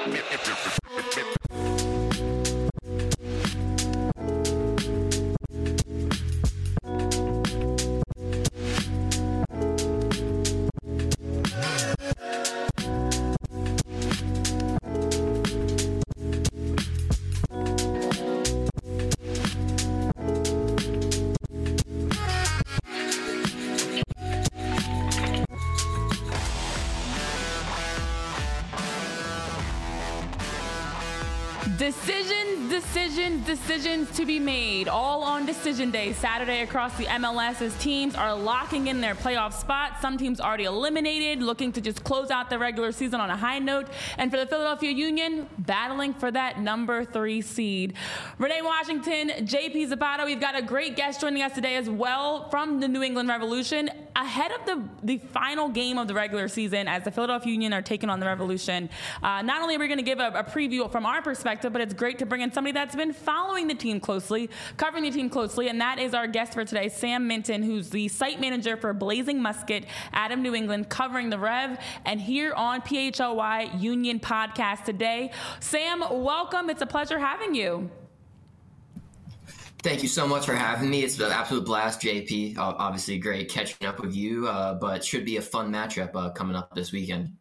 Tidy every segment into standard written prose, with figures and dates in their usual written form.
Decisions to be made, all on decision day Saturday across the MLS as teams are locking in their playoff spots. Some teams already eliminated, looking to just close out the regular season on a high note. And for the Philadelphia Union, battling for that number 3 seed. Renee Washington, JP Zapata, we've got a great guest joining us today as well from the New England Revolution. Ahead of the final game of the regular season as the Philadelphia Union are taking on the Revolution, not only are we going to give a preview from our perspective, but it's great to bring in somebody that's been following the team closely, covering the team closely, and that is our guest for today, Sam Minton, who's the site manager for Blazing Musket out of New England, covering the Rev, and here on PHLY Union Podcast today. Sam, welcome. It's a pleasure having you. Thank you so much for having me. It's an absolute blast, JP. Obviously great catching up with you, but should be a fun matchup coming up this weekend.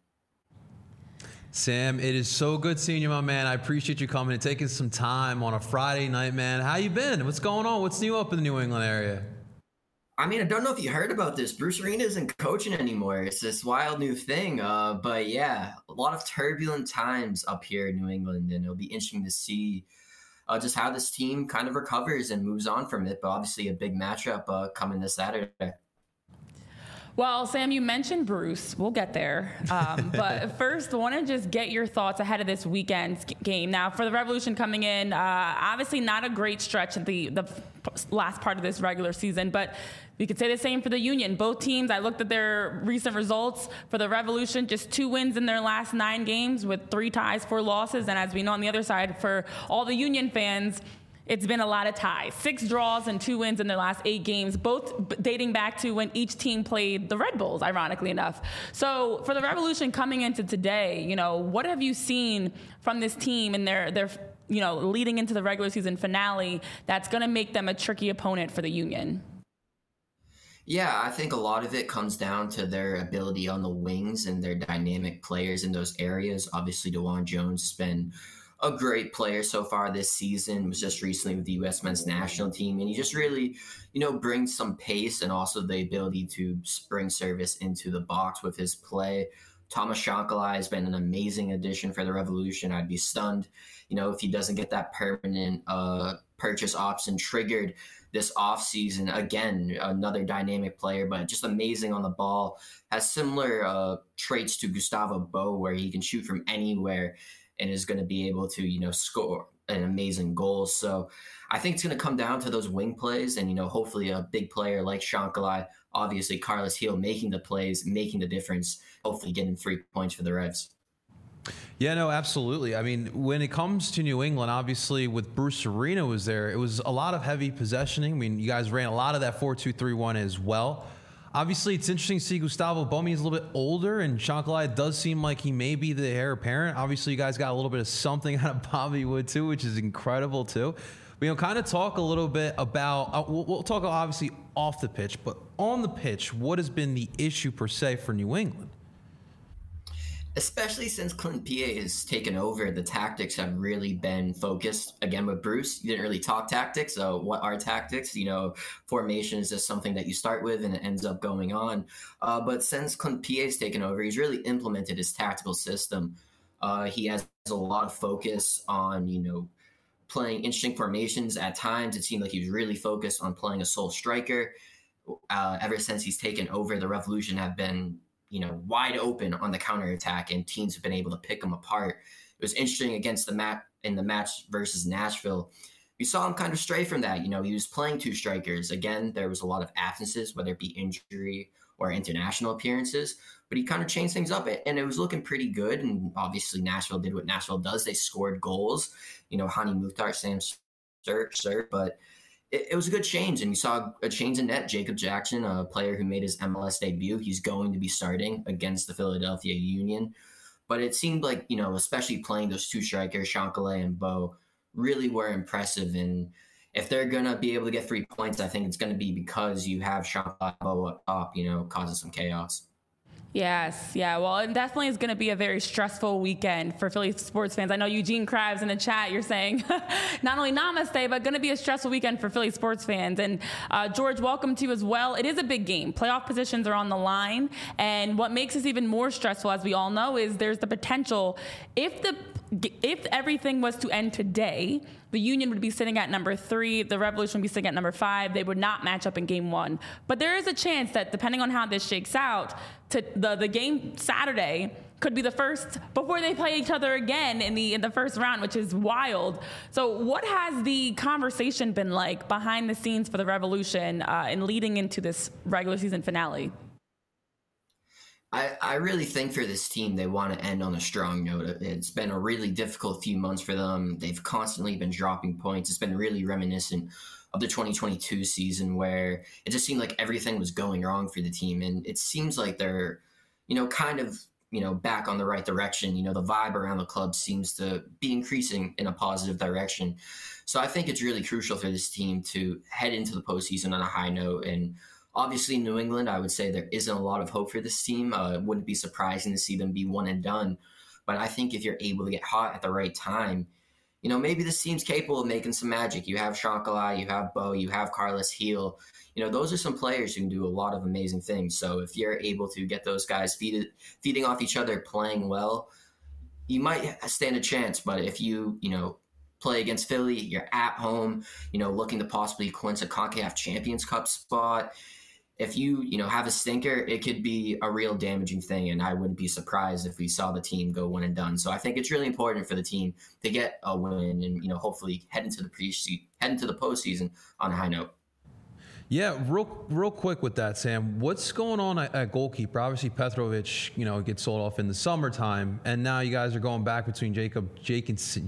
Sam, it is so good seeing you, my man. I appreciate you coming and taking some time on a Friday night, man. How you been? What's going on? What's new up in the New England area? I mean, I don't know if you heard about this. Bruce Arena isn't coaching anymore. It's this wild new thing. But yeah, a lot of turbulent times up here in New England, and it'll be interesting to see just how this team kind of recovers and moves on from it. But obviously a big matchup coming this Saturday. Well, Sam, you mentioned Bruce. We'll get there. But first, I want to just get your thoughts ahead of this weekend's game. Now, for the Revolution coming in, obviously not a great stretch at the last part of this regular season, but we could say the same for the Union. Both teams, I looked at their recent results. For the Revolution, just 2 wins in their last 9 games with 3 ties, 4 losses. And as we know on the other side, for all the Union fans, it's been a lot of ties. 6 draws and 2 wins in their last 8 games, both dating back to when each team played the Red Bulls, ironically enough. So for the Revolution coming into today, what have you seen from this team and their leading into the regular season finale that's going to make them a tricky opponent for the Union? Yeah, I think a lot of it comes down to their ability on the wings and their dynamic players in those areas. Obviously, DeJuan Jones has been a great player so far this season, was just recently with the U.S. men's national team. And he just really, brings some pace and also the ability to bring service into the box with his play. Thomas Shankala has been an amazing addition for the Revolution. I'd be stunned, if he doesn't get that permanent purchase option triggered this offseason. Again, another dynamic player, but just amazing on the ball. Has similar traits to Gustavo Bo, where he can shoot from anywhere and is going to be able to, score an amazing goal. So I think it's going to come down to those wing plays and, hopefully a big player like Shankala, obviously Carlos Gil making the plays, making the difference, hopefully getting 3 points for the Revs. Yeah, no, absolutely. I mean, when it comes to New England, obviously with Bruce Arena was there, it was a lot of heavy possessioning. I mean, you guys ran a lot of that 4-2-3-1 as well. Obviously, it's interesting to see Gustavo Bomi is a little bit older, and Shankala does seem like he may be the heir apparent. Obviously, you guys got a little bit of something out of Bobby Wood, too, which is incredible, too. We kind of talk a little bit about, we'll talk obviously off the pitch, but on the pitch, what has been the issue per se for New England? Especially since Clint P.A. has taken over, the tactics have really been focused. Again, with Bruce, you didn't really talk tactics. So what are tactics? Formation is just something that you start with and it ends up going on. But since Clint P.A. has taken over, he's really implemented his tactical system. He has a lot of focus on, playing interesting formations. At times, it seemed like he was really focused on playing a sole striker. Ever since he's taken over, the Revolution have been wide open on the counterattack, and teams have been able to pick them apart. It was interesting against the match versus Nashville. We saw him kind of stray from that. He was playing 2 strikers. Again, there was a lot of absences, whether it be injury or international appearances, but he kind of changed things up, and it was looking pretty good. And obviously Nashville did what Nashville does. They scored goals, Hani Mukhtar, Sam Sir, but it was a good change, and you saw a change in net. Jacob Jackson, a player who made his MLS debut, he's going to be starting against the Philadelphia Union. But it seemed like, especially playing those two strikers, Chancalay and Bo, really were impressive. And if they're going to be able to get 3 points, I think it's going to be because you have Chancalay and Bo up top, causing some chaos. Yes, yeah. Well, it definitely is going to be a very stressful weekend for Philly sports fans. I know Eugene Krabs in the chat, you're saying not only namaste, but going to be a stressful weekend for Philly sports fans. And George, welcome to you as well. It is a big game. Playoff positions are on the line. And what makes this even more stressful, as we all know, is there's the potential if everything was to end today, the Union would be sitting at number 3. The Revolution would be sitting at number 5. They would not match up in game 1. But there is a chance that depending on how this shakes out, the game Saturday could be the first before they play each other again in the first round, which is wild. So what has the conversation been like behind the scenes for the Revolution in leading into this regular season finale? I really think for this team, they want to end on a strong note. It's been a really difficult few months for them. They've constantly been dropping points. It's been really reminiscent of the 2022 season where it just seemed like everything was going wrong for the team. And it seems like they're, kind of, back on the right direction. The vibe around the club seems to be increasing in a positive direction. So I think it's really crucial for this team to head into the postseason on a high note. And obviously, New England, I would say there isn't a lot of hope for this team. It wouldn't be surprising to see them be one and done. But I think if you're able to get hot at the right time, maybe this team's capable of making some magic. You have Chancalay, you have Bo, you have Carlos Heel. Those are some players who can do a lot of amazing things. So if you're able to get those guys feeding off each other, playing well, you might stand a chance. But if you, play against Philly, you're at home, looking to possibly clinch a CONCACAF Champions Cup spot. If you, have a stinker, it could be a real damaging thing. And I wouldn't be surprised if we saw the team go one and done. So I think it's really important for the team to get a win and, hopefully head into the postseason on a high note. Yeah, real quick with that, Sam. What's going on at goalkeeper? Obviously, Petrovic, gets sold off in the summertime, and now you guys are going back between Jacob Jackson,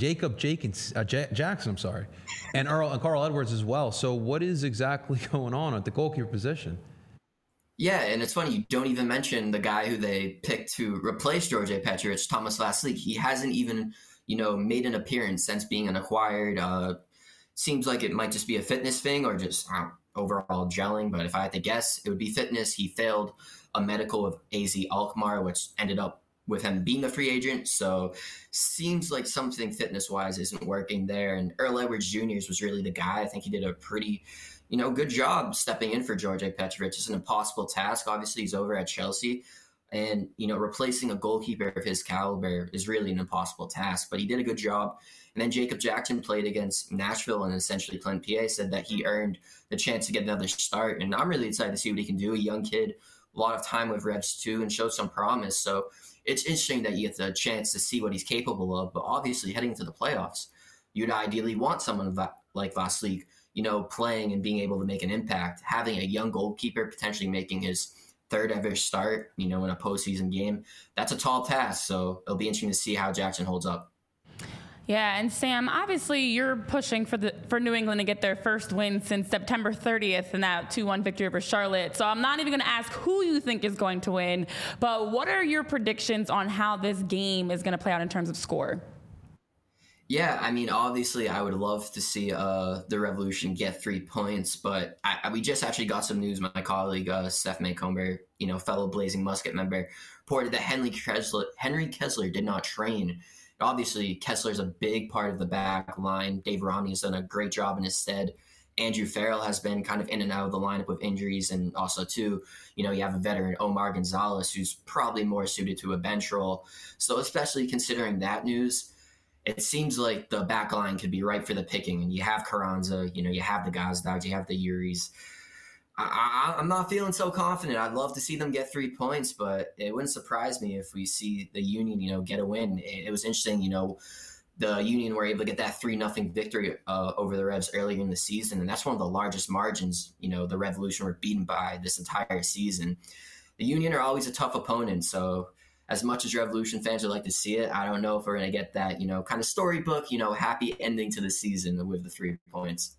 and Carl Edwards as well. So, what is exactly going on at the goalkeeper position? Yeah, and it's funny, you don't even mention the guy who they picked to replace George Petrovic, Thomas Vasilic. He hasn't even, made an appearance since being an acquired. Seems like it might just be a fitness thing or just overall gelling. But if I had to guess, it would be fitness. He failed a medical with AZ Alkmaar, which ended up with him being a free agent. So seems like something fitness-wise isn't working there. And Earl Edwards Jr. was really the guy. I think he did a pretty good job stepping in for George Petrovic. It's an impossible task. Obviously, he's over at Chelsea. And, replacing a goalkeeper of his caliber is really an impossible task. But he did a good job. And then Jacob Jackson played against Nashville and essentially Clint P.A. said that he earned the chance to get another start. And I'm really excited to see what he can do. A young kid, a lot of time with Revs too, and showed some promise. So it's interesting that you get the chance to see what he's capable of. But obviously, heading into the playoffs, you'd ideally want someone like Vasilic, playing and being able to make an impact. Having a young goalkeeper potentially making his third ever start, in a postseason game, that's a tall task. So it'll be interesting to see how Jackson holds up. Yeah, and Sam, obviously you're pushing for New England to get their first win since September 30th in that 2-1 victory over Charlotte. So I'm not even going to ask who you think is going to win, but what are your predictions on how this game is going to play out in terms of score? Yeah, obviously I would love to see the Revolution get 3 points, but we just actually got some news. My colleague, Steph Maycomber, fellow Blazing Musket member, reported that Henry Kessler did not train. Obviously, Kessler's a big part of the back line. Dave Romney has done a great job in his stead. Andrew Farrell has been kind of in and out of the lineup with injuries. And also, too, you have a veteran, Omar Gonzalez, who's probably more suited to a bench role. So especially considering that news, it seems like the back line could be ripe for the picking. And you have Carranza, you have the Gazdags, you have the Yuris. I'm not feeling so confident. I'd love to see them get 3 points, but it wouldn't surprise me if we see the Union, get a win. It was interesting, the Union were able to get that 3-0 victory over the Revs earlier in the season, and that's one of the largest margins, the Revolution were beaten by this entire season. The Union are always a tough opponent, so as much as Revolution fans would like to see it, I don't know if we're going to get that, kind of storybook, happy ending to the season with the 3 points.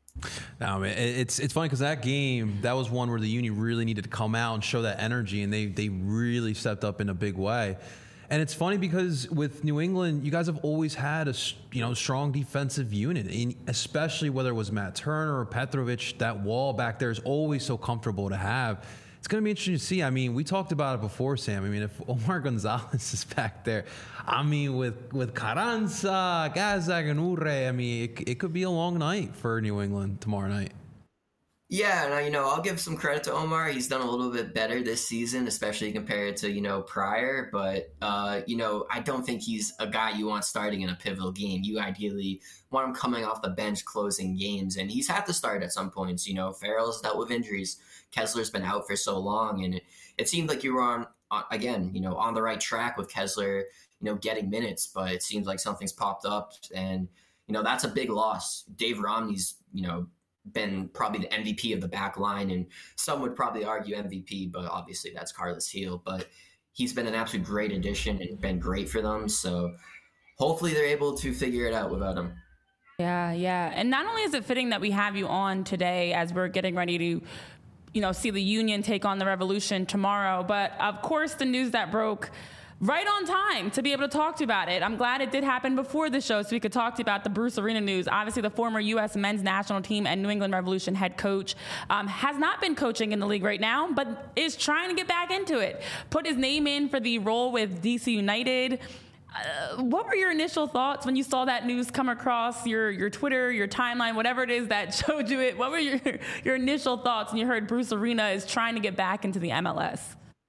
No, man, it's funny because that game, that was one where the Union really needed to come out and show that energy, and they really stepped up in a big way. And it's funny because with New England, you guys have always had a strong defensive unit, especially whether it was Matt Turner or Petrovic. That wall back there is always so comfortable to have. It's going to be interesting to see. I mean, we talked about it before, Sam. I mean, if Omar Gonzalez is back there, I mean, with Carranza, Gazdag, and Urre, I mean, it could be a long night for New England tomorrow night. Yeah, and I'll give some credit to Omar. He's done a little bit better this season, especially compared to, prior. But, I don't think he's a guy you want starting in a pivotal game. You ideally want him coming off the bench, closing games. And he's had to start at some points. Farrell's dealt with injuries. Kessler's been out for so long. And it seemed like you were on the right track with Kessler, getting minutes. But it seems like something's popped up. And, that's a big loss. Dave Romney's, been probably the MVP of the back line, and some would probably argue MVP, but obviously that's Carlos Gil. But he's been an absolute great addition and been great for them. So hopefully they're able to figure it out without him. Yeah. And not only is it fitting that we have you on today as we're getting ready to, see the Union take on the Revolution tomorrow, but of course the news that broke right on time to be able to talk to you about it. I'm glad it did happen before the show so we could talk to you about the Bruce Arena news. Obviously, the former U.S. men's national team and New England Revolution head coach has not been coaching in the league right now, but is trying to get back into it. Put his name in for the role with DC United. What were your initial thoughts when you saw that news come across your Twitter, your timeline, whatever it is that showed you it? What were your initial thoughts when you heard Bruce Arena is trying to get back into the MLS?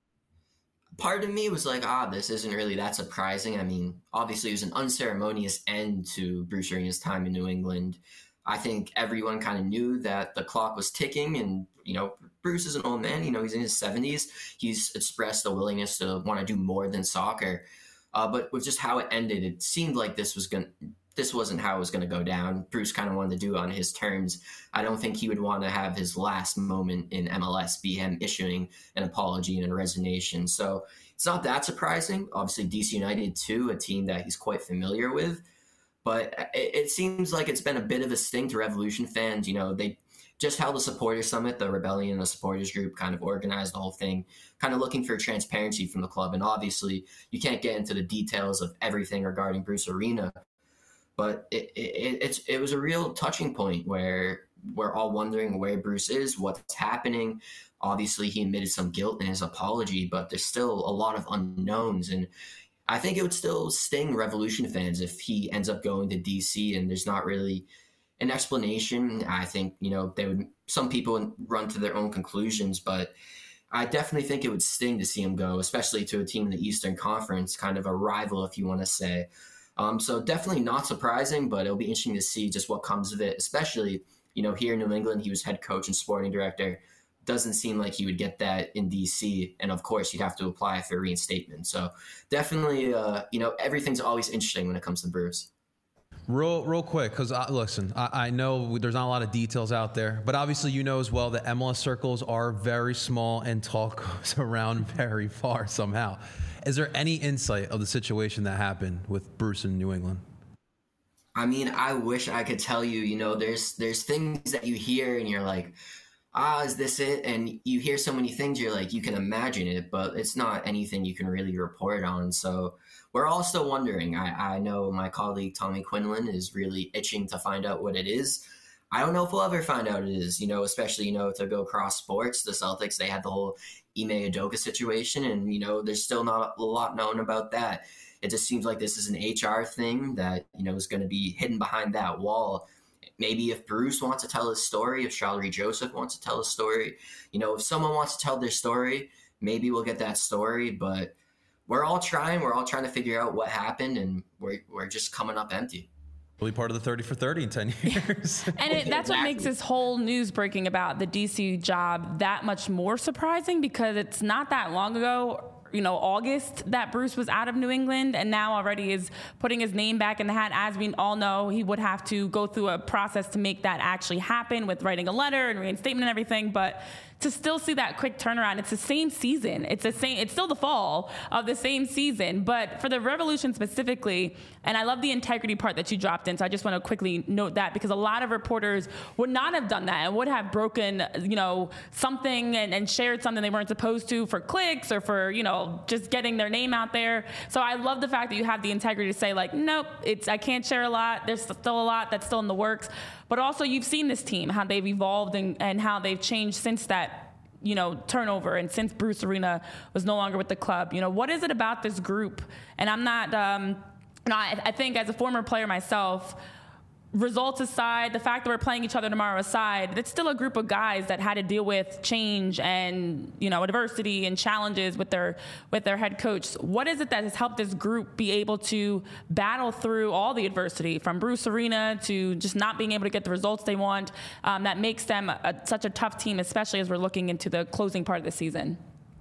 Part of me was like, this isn't really that surprising. I mean, obviously it was an unceremonious end to Bruce Arena's time in New England. I think everyone kind of knew that the clock was ticking, and, Bruce is an old man, he's in his 70s. He's expressed a willingness to want to do more than soccer. But with just how it ended, it seemed like this wasn't how it was going to go down. Bruce kind of wanted to do it on his terms. I don't think he would want to have his last moment in MLS be him issuing an apology and a resignation. So it's not that surprising. Obviously, DC United, too, a team that he's quite familiar with. But it seems like it's been a bit of a sting to Revolution fans. They just held a supporters summit. The Rebellion, the supporters group, kind of organized the whole thing, kind of looking for transparency from the club. And obviously, you can't get into the details of everything regarding Bruce Arena. But it was a real touching point where we're all wondering where Bruce is, what's happening. Obviously, he admitted some guilt in his apology, but there's still a lot of unknowns. And I think it would still sting Revolution fans if he ends up going to DC and there's not really an explanation. I think, some people would run to their own conclusions, but I definitely think it would sting to see him go, especially to a team in the Eastern Conference, kind of a rival, if you want to say. So definitely not surprising, but it'll be interesting to see just what comes of it, especially, here in New England, he was head coach and sporting director. Doesn't seem like he would get that in DC. And of course, you'd have to apply for reinstatement. So definitely, everything's always interesting when it comes to Bruce. Real quick, because listen, I know there's not a lot of details out there, but obviously as well that MLS circles are very small and talk goes around very far somehow. Is there any insight of the situation that happened with Bruce in New England? I mean, I wish I could tell you, there's things that you hear and you're like, is this it? And you hear so many things, you're like, you can imagine it, but it's not anything you can really report on. So we're all still wondering. I know my colleague Tommy Quinlan is really itching to find out what it is. I don't know if we'll ever find out what it is, especially, to go cross sports. The Celtics, they had the whole Ime Udoka situation, and, there's still not a lot known about that. It just seems like this is an HR thing that, is going to be hidden behind that wall. Maybe if Bruce wants to tell his story, if Shalrie Joseph wants to tell his story, if someone wants to tell their story, maybe we'll get that story. But we're all trying to figure out what happened, and we're just coming up empty. We'll be part of the 30 for 30 in 10 years. And that's what makes this whole news breaking about the DC job that much more surprising, because it's not that long ago, August, that Bruce was out of New England and now already is putting his name back in the hat. As we all know, he would have to go through a process to make that actually happen with writing a letter and reinstatement and everything. But to still see that quick turnaround. It's the same season. It's still the fall of the same season. But for the Revolution specifically, and I love the integrity part that you dropped in, so I just want to quickly note that, because a lot of reporters would not have done that and would have broken, something and shared something they weren't supposed to for clicks or for, just getting their name out there. So I love the fact that you have the integrity to say, like, nope, I can't share a lot. There's still a lot that's still in the works. But also, you've seen this team, how they've evolved and how they've changed since that, turnover, and since Bruce Arena was no longer with the club. What is it about this group? And I'm not, I think as a former player myself, results aside, the fact that we're playing each other tomorrow aside, it's still a group of guys that had to deal with change and, adversity and challenges with their head coach. What is it that has helped this group be able to battle through all the adversity, from Bruce Arena to just not being able to get the results they want, that makes them such a tough team, especially as we're looking into the closing part of the season?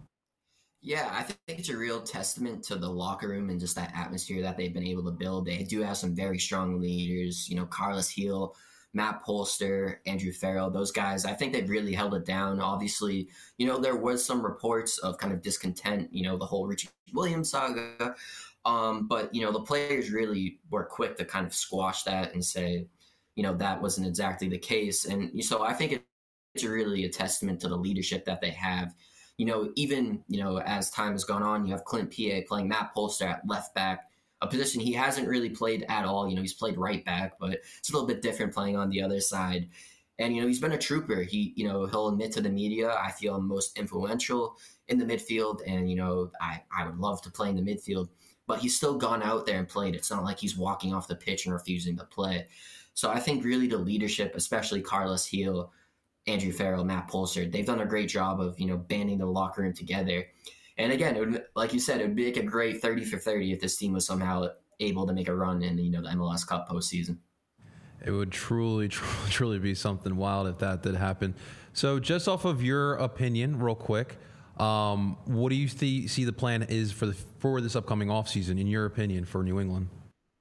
Yeah, I think it's a real testament to the locker room and just that atmosphere that they've been able to build. They do have some very strong leaders, Carlos Heel, Matt Polster, Andrew Farrell, those guys. I think they've really held it down. Obviously, there was some reports of kind of discontent, the whole Richie Williams saga. But, the players really were quick to kind of squash that and say, that wasn't exactly the case. And so I think it's really a testament to the leadership that they have. Even, as time has gone on, you have Clint P.A. playing Matt Polster at left back, a position he hasn't really played at all. He's played right back, but it's a little bit different playing on the other side. And, he's been a trooper. He'll admit to the media, I feel I'm most influential in the midfield. And, I would love to play in the midfield, but he's still gone out there and played. It's not like he's walking off the pitch and refusing to play. So I think really the leadership, especially Carlos Heel, Andrew Farrell, Matt Polster, they've done a great job of, banding the locker room together. And again, like you said, it would make a great 30 for 30 if this team was somehow able to make a run in, the MLS Cup postseason. It would truly be something wild if that did happen. So just off of your opinion, real quick, what do you see the plan is for this upcoming offseason, in your opinion, for New England?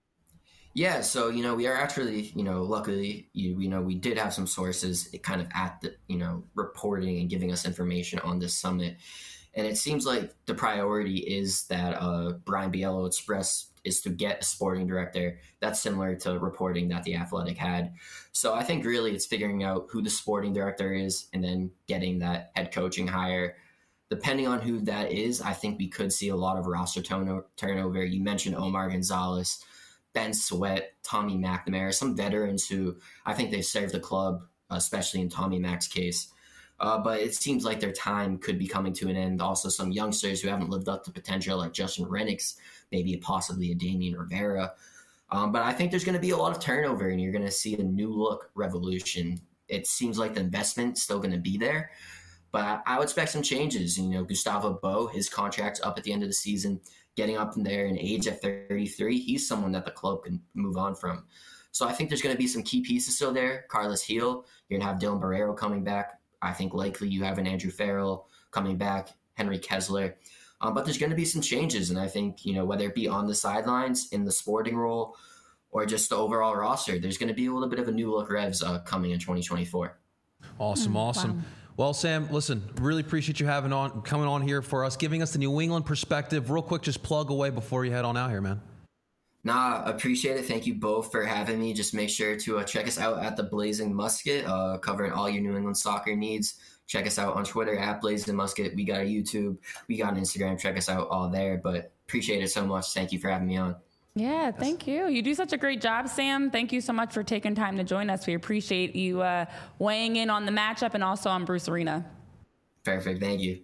Yeah, so, we are actually, luckily, we did have some sources kind of at the, reporting and giving us information on this summit. And it seems like the priority is that Brian Biello expressed is to get a sporting director. That's similar to reporting that The Athletic had. So I think really it's figuring out who the sporting director is and then getting that head coaching hire. Depending on who that is, I think we could see a lot of roster turnover. You mentioned Omar Gonzalez, Ben Sweat, Tommy McNamara, some veterans who I think they've served the club, especially in Tommy Mac's case. But it seems like their time could be coming to an end. Also, some youngsters who haven't lived up to potential, like Justin Rennicks, maybe possibly a Damian Rivera. But I think there's going to be a lot of turnover, and you're going to see a new look Revolution. It seems like the investment's still going to be there, but I would expect some changes. Gustavo Bo, his contract's up at the end of the season. Getting up in there in age at 33, he's someone that the club can move on from. So I think there's going to be some key pieces still there. Carlos Heel, you're going to have Dylan Barrero coming back. I think likely you have an Andrew Farrell coming back, Henry Kessler. But there's going to be some changes. And I think, whether it be on the sidelines, in the sporting role, or just the overall roster, there's going to be a little bit of a new look Revs coming in 2024. Awesome. Wow. Well, Sam, listen, really appreciate you coming on here for us, giving us the New England perspective. Real quick, just plug away before you head on out here, man. Nah, appreciate it. Thank you both for having me. Just make sure to check us out at the Blazing Musket, covering all your New England soccer needs. Check us out on Twitter at Blazing Musket. We got a YouTube. We got an Instagram. Check us out all there. But appreciate it so much. Thank you for having me on. Yeah, thank you. You do such a great job, Sam. Thank you so much for taking time to join us. We appreciate you weighing in on the matchup and also on Bruce Arena. Perfect. Thank you.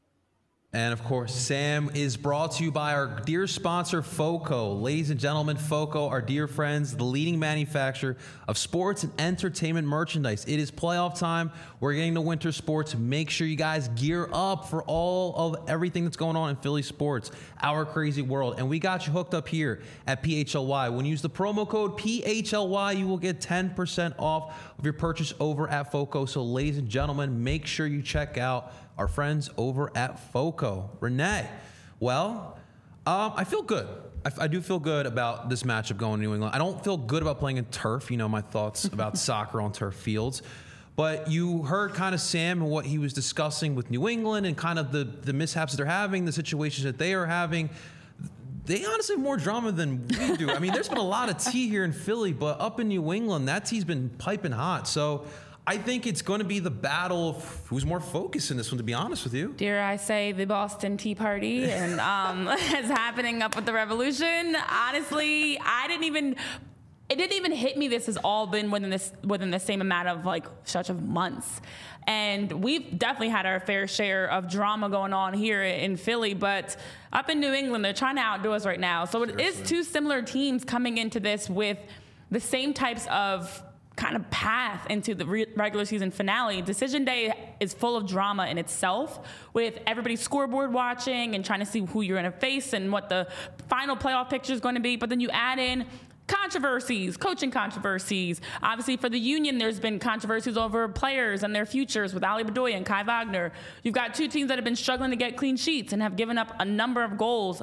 And of course, Sam is brought to you by our dear sponsor, FOCO. Ladies and gentlemen, FOCO, our dear friends, the leading manufacturer of sports and entertainment merchandise. It is playoff time. We're getting to winter sports. Make sure you guys gear up for all of everything that's going on in Philly sports, our crazy world. And we got you hooked up here at PHLY. When you use the promo code PHLY, you will get 10% off of your purchase over at FOCO. So ladies and gentlemen, make sure you check out our friends over at FOCO. Renee, well, I feel good. I do feel good about this matchup going to New England. I don't feel good about playing in turf. My thoughts about soccer on turf fields. But you heard kind of Sam and what he was discussing with New England and kind of the mishaps that they're having, the situations that they are having. They honestly have more drama than we do. I mean, there's been a lot of tea here in Philly, but up in New England, that tea's been piping hot. So I think it's going to be the battle of who's more focused in this one, to be honest with you. Dare I say the Boston Tea Party and is happening up with the Revolution. Honestly, it didn't even hit me this has all been within the same amount of like such of months. And we've definitely had our fair share of drama going on here in Philly, but up in New England, they're trying to outdo us right now. So it is two similar teams coming into this with the same types of kind of path into the regular season finale. Decision Day is full of drama in itself, with everybody scoreboard watching and trying to see who you're going to face and what the final playoff picture is going to be. But then you add in controversies, coaching controversies. Obviously, for the Union, there's been controversies over players and their futures with Ali Bedoya and Kai Wagner. You've got two teams that have been struggling to get clean sheets and have given up a number of goals.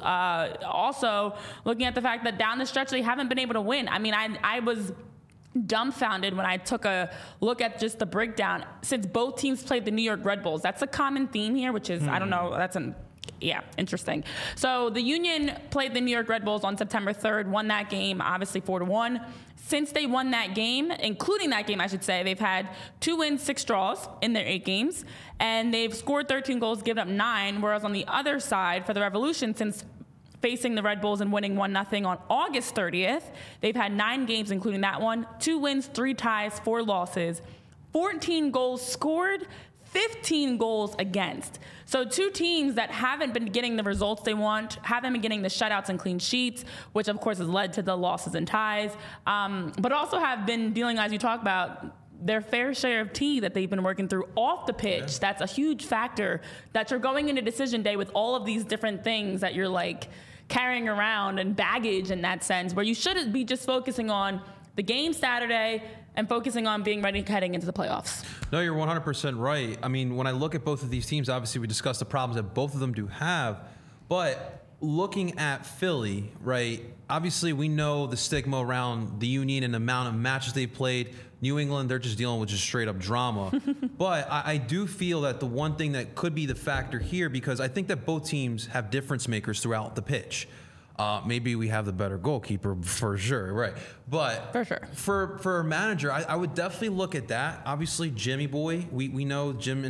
Also, looking at the fact that down the stretch, they haven't been able to win. I mean, I was dumbfounded when I took a look at just the breakdown. Since both teams played the New York Red Bulls, that's a common theme here, which is, I don't know, interesting. So the Union played the New York Red Bulls on September 3rd, won that game, obviously 4-1. Since they won that game, including that game, I should say, they've had 2 wins, 6 draws in their 8 games, and they've scored 13 goals, given up 9, whereas on the other side, for the Revolution, since facing the Red Bulls and winning 1-0 on August 30th, they've had 9 games, including that one, 2 wins, 3 ties, 4 losses, 14 goals scored, 15 goals against. So two teams that haven't been getting the results they want, haven't been getting the shutouts and clean sheets, which of course has led to the losses and ties, but also have been dealing, as you talk about, their fair share of tea that they've been working through off the pitch. Yeah. That's a huge factor that you're going into Decision Day with all of these different things that you're like carrying around and baggage in that sense, where you should be just focusing on the game Saturday and focusing on being ready heading into the playoffs. No, you're 100% right. I mean, when I look at both of these teams, obviously we discussed the problems that both of them do have, but looking at Philly, right, obviously we know the stigma around the Union and the amount of matches they've played. New England, they're just dealing with just straight up drama. But I do feel that the one thing that could be the factor here, because I think that both teams have difference makers throughout the pitch. Maybe we have the better goalkeeper for sure, right? But for sure, for a manager, I would definitely look at that. Obviously, Jimmy Boy, we know Jim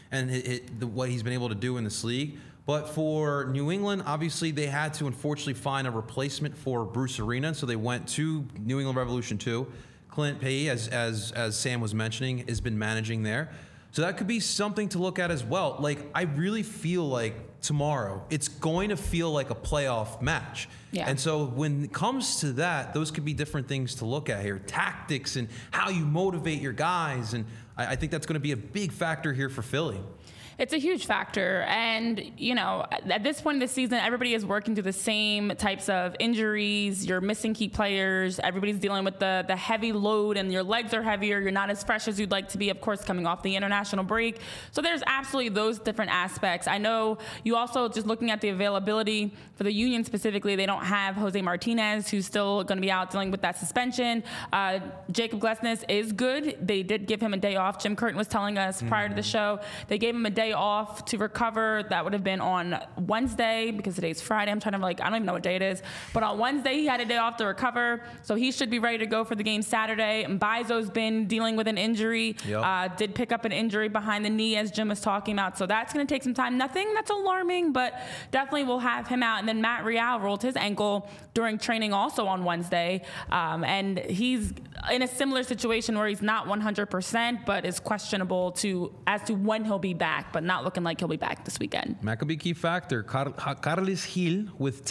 and what he's been able to do in this league. But for New England, obviously they had to unfortunately find a replacement for Bruce Arena, so they went to New England Revolution 2. Clint Payet, as Sam was mentioning, has been managing there. So that could be something to look at as well. Like, I really feel like tomorrow, it's going to feel like a playoff match. Yeah. And so when it comes to that, those could be different things to look at here. Tactics and how you motivate your guys. And I think that's going to be a big factor here for Philly. It's a huge factor. And, you know, at this point in the season, everybody is working through the same types of injuries. You're missing key players. Everybody's dealing with the heavy load, and your legs are heavier. You're not as fresh as you'd like to be, of course, coming off the international break. So there's absolutely those different aspects. I know you also, just looking at the availability for the Union specifically, they don't have Jose Martinez, who's still going to be out dealing with that suspension. Jacob Glesnes is good. They did give him a day off. Jim Curtin was telling us prior to the show, they gave him a day off to recover. That would have been on Wednesday, because today's Friday. I don't even know what day it is. But on Wednesday, he had a day off to recover. So he should be ready to go for the game Saturday. Mbaizo's been dealing with an injury. Yep. Did pick up an injury behind the knee, as Jim was talking about. So that's going to take some time. Nothing that's alarming, but definitely we'll have him out. And then Matt Real rolled his ankle during training also on Wednesday. And he's in a similar situation where he's not 100%, but is questionable as to when he'll be back. But not looking like he'll be back this weekend. That could be a key factor. Carles Gil with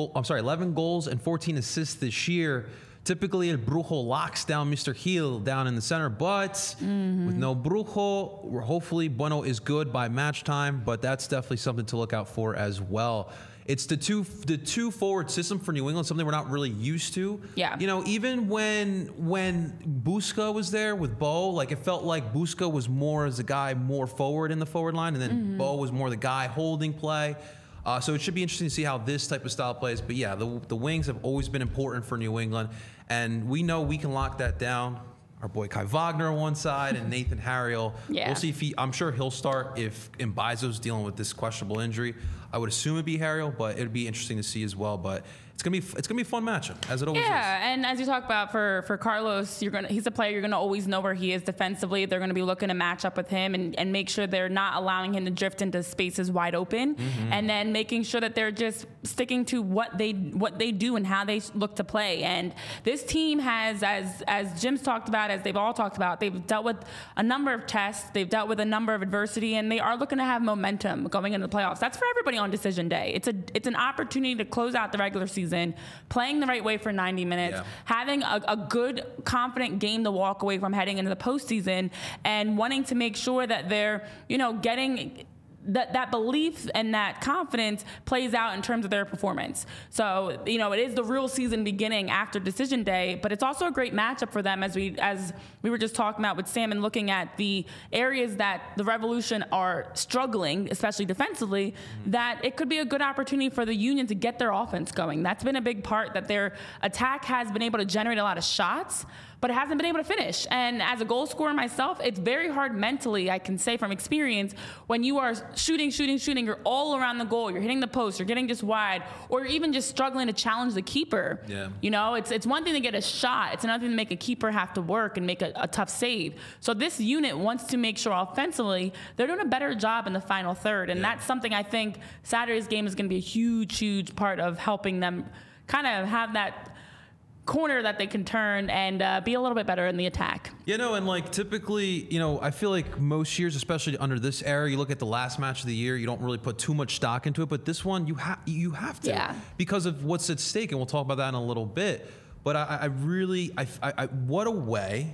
11 goals and 14 assists this year. Typically, El Brujo locks down Mr. Gil down in the center, but with no Brujo, hopefully Bueno is good by match time, but that's definitely something to look out for as well. It's the two forward system for New England, something we're not really used to. Yeah. You know, even when Busca was there with Bo, like it felt like Busca was more as a guy more forward in the forward line, and then Bo was more the guy holding play. So it should be interesting to see how this type of style plays. But yeah, the wings have always been important for New England, and we know we can lock that down. our boy Kai Wagner on one side and Nathan Harriel. Yeah. We'll see I'm sure he'll start if Mbaizo's dealing with this questionable injury. I would assume it'd be Harriel, but it'd be interesting to see as well. But it's gonna be a fun matchup, as it always is. Yeah, and as you talk about for Carlos, he's a player you're gonna always know where he is defensively. They're gonna be looking to match up with him and make sure they're not allowing him to drift into spaces wide open, and then making sure that they're just sticking to what they do and how they look to play. And this team has, as Jim's talked about, as they've all talked about, they've dealt with a number of tests, they've dealt with a number of adversity, and they are looking to have momentum going into the playoffs. That's for everybody on decision day. It's an opportunity to close out the regular season, playing the right way for 90 minutes, having a good, confident game to walk away from heading into the postseason, and wanting to make sure that they're, getting that belief and that confidence plays out in terms of their performance. So, it is the real season beginning after decision day, but it's also a great matchup for them as we were just talking about with Sam and looking at the areas that the Revolution are struggling, especially defensively, that it could be a good opportunity for the Union to get their offense going. That's been a big part, that their attack has been able to generate a lot of shots, but it hasn't been able to finish. And as a goal scorer myself, it's very hard mentally, I can say from experience, when you are shooting, you're all around the goal, you're hitting the post, you're getting just wide, or you're even just struggling to challenge the keeper. Yeah. It's one thing to get a shot, it's another thing to make a keeper have to work and make a tough save. So this unit wants to make sure offensively they're doing a better job in the final third, and that's something I think Saturday's game is going to be a huge part of helping them kind of have that corner that they can turn and be a little bit better in the attack. And typically, I feel like most years, especially under this era, you look at the last match of the year, you don't really put too much stock into it, but this one you have to, because of what's at stake, and we'll talk about that in a little bit. But I really what a way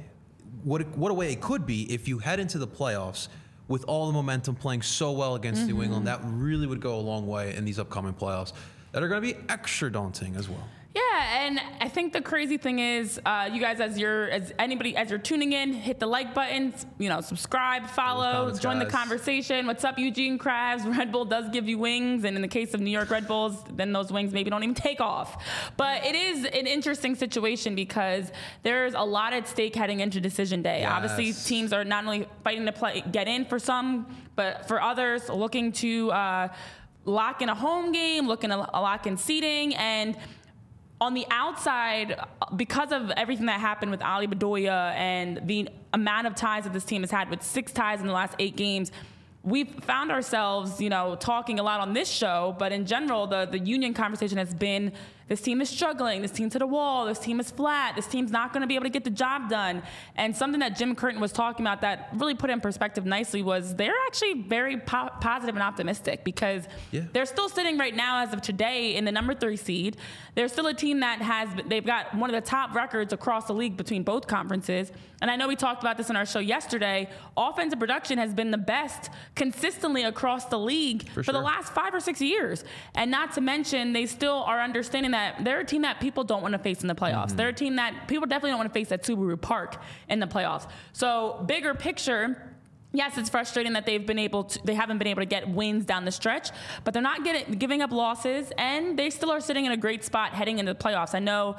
it could be if you head into the playoffs with all the momentum playing so well against New England. That really would go a long way in these upcoming playoffs that are going to be extra daunting as well. Yeah, and I think the crazy thing is, you guys, as you're tuning in, hit the like button, subscribe, follow, join the conversation. What's up, Eugene Krabs? Red Bull does give you wings, and in the case of New York Red Bulls, then those wings maybe don't even take off. But it is an interesting situation because there's a lot at stake heading into decision day. Yes. Obviously, teams are not only fighting to get in for some, but for others, looking to lock in a home game, looking to lock in seeding, and on the outside, because of everything that happened with Ali Bedoya and the amount of ties that this team has had, with 6 ties in the last 8 games, we've found ourselves, talking a lot on this show, but in general, the Union conversation has been, this team is struggling, this team's to the wall, this team is flat, this team's not going to be able to get the job done. And something that Jim Curtin was talking about that really put it in perspective nicely was they're actually very positive and optimistic, because they're still sitting right now as of today in the number 3 seed. They're still a team that they've got one of the top records across the league between both conferences. And I know we talked about this in our show yesterday. Offensive production has been the best consistently across the league for the last 5 or 6 years. And not to mention, they still are understanding that they're a team that people don't want to face in the playoffs. They're a team that people definitely don't want to face at Subaru Park in the playoffs. So bigger picture, yes, it's frustrating that they haven't been able to get wins down the stretch, but they're not giving up losses, and they still are sitting in a great spot heading into the playoffs. I know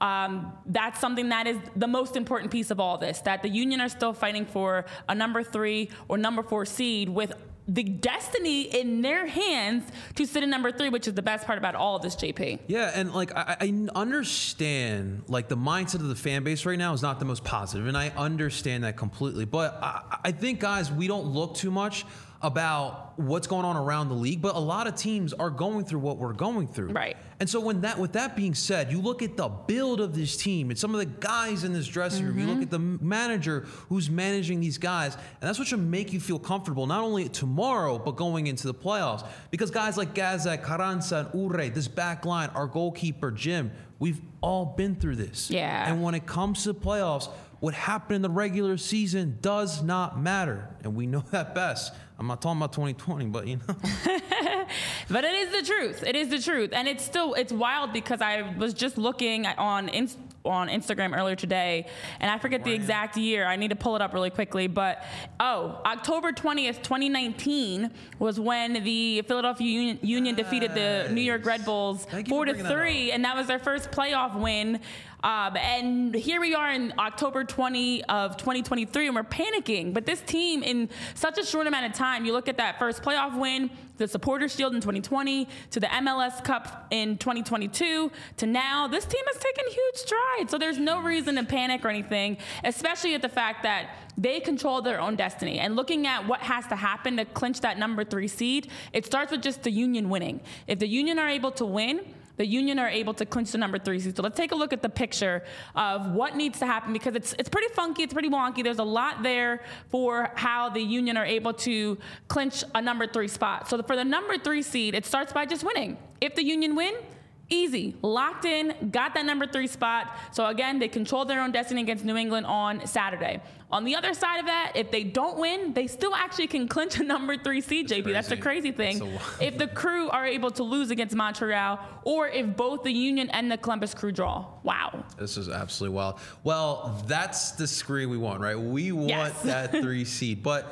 that's something that is the most important piece of all this, that the Union are still fighting for a number 3 or number 4 seed with the destiny in their hands to sit in number 3, which is the best part about all of this, JP. Yeah, and I understand the mindset of the fan base right now is not the most positive, and I understand that completely. But I think, guys, we don't look too much about what's going on around the league, but a lot of teams are going through what we're going through. Right. And so with that being said, you look at the build of this team and some of the guys in this dressing room, you look at the manager who's managing these guys, and that's what should make you feel comfortable, not only tomorrow, but going into the playoffs. Because guys like Gazak, Carranza, and Ure, this back line, our goalkeeper, Jim, we've all been through this. Yeah. And when it comes to the playoffs, what happened in the regular season does not matter. And we know that best. I'm not talking about 2020, but But it is the truth. It is the truth. And it's wild because I was just looking on Instagram earlier today, and I forget the exact year. I need to pull it up really quickly. But, October 20th, 2019 was when the Philadelphia Union defeated the New York Red Bulls 4-3, and that was their first playoff win. And here we are in October 20 of 2023, and we're panicking. But this team, in such a short amount of time, you look at that first playoff win, the Supporters Shield in 2020, to the MLS Cup in 2022, to now, this team has taken huge strides. So there's no reason to panic or anything, especially at the fact that they control their own destiny. And looking at what has to happen to clinch that number 3 seed, it starts with just the Union winning. If the Union are able to win, the Union are able to clinch the number 3 seed. So let's take a look at the picture of what needs to happen, because it's pretty funky, it's pretty wonky. There's a lot there for how the Union are able to clinch a number 3 spot. So for the number 3 seed, it starts by just winning. If the Union win, easy, locked in, got that number 3 spot. So again, they control their own destiny against New England on Saturday. On the other side of that, if they don't win, they still actually can clinch a number 3 seed, JP. That's the crazy thing. If the Crew are able to lose against Montreal, or if both the Union and the Columbus Crew draw. Wow. This is absolutely wild. Well, that's the screen we want, right? We want that 3 seed. But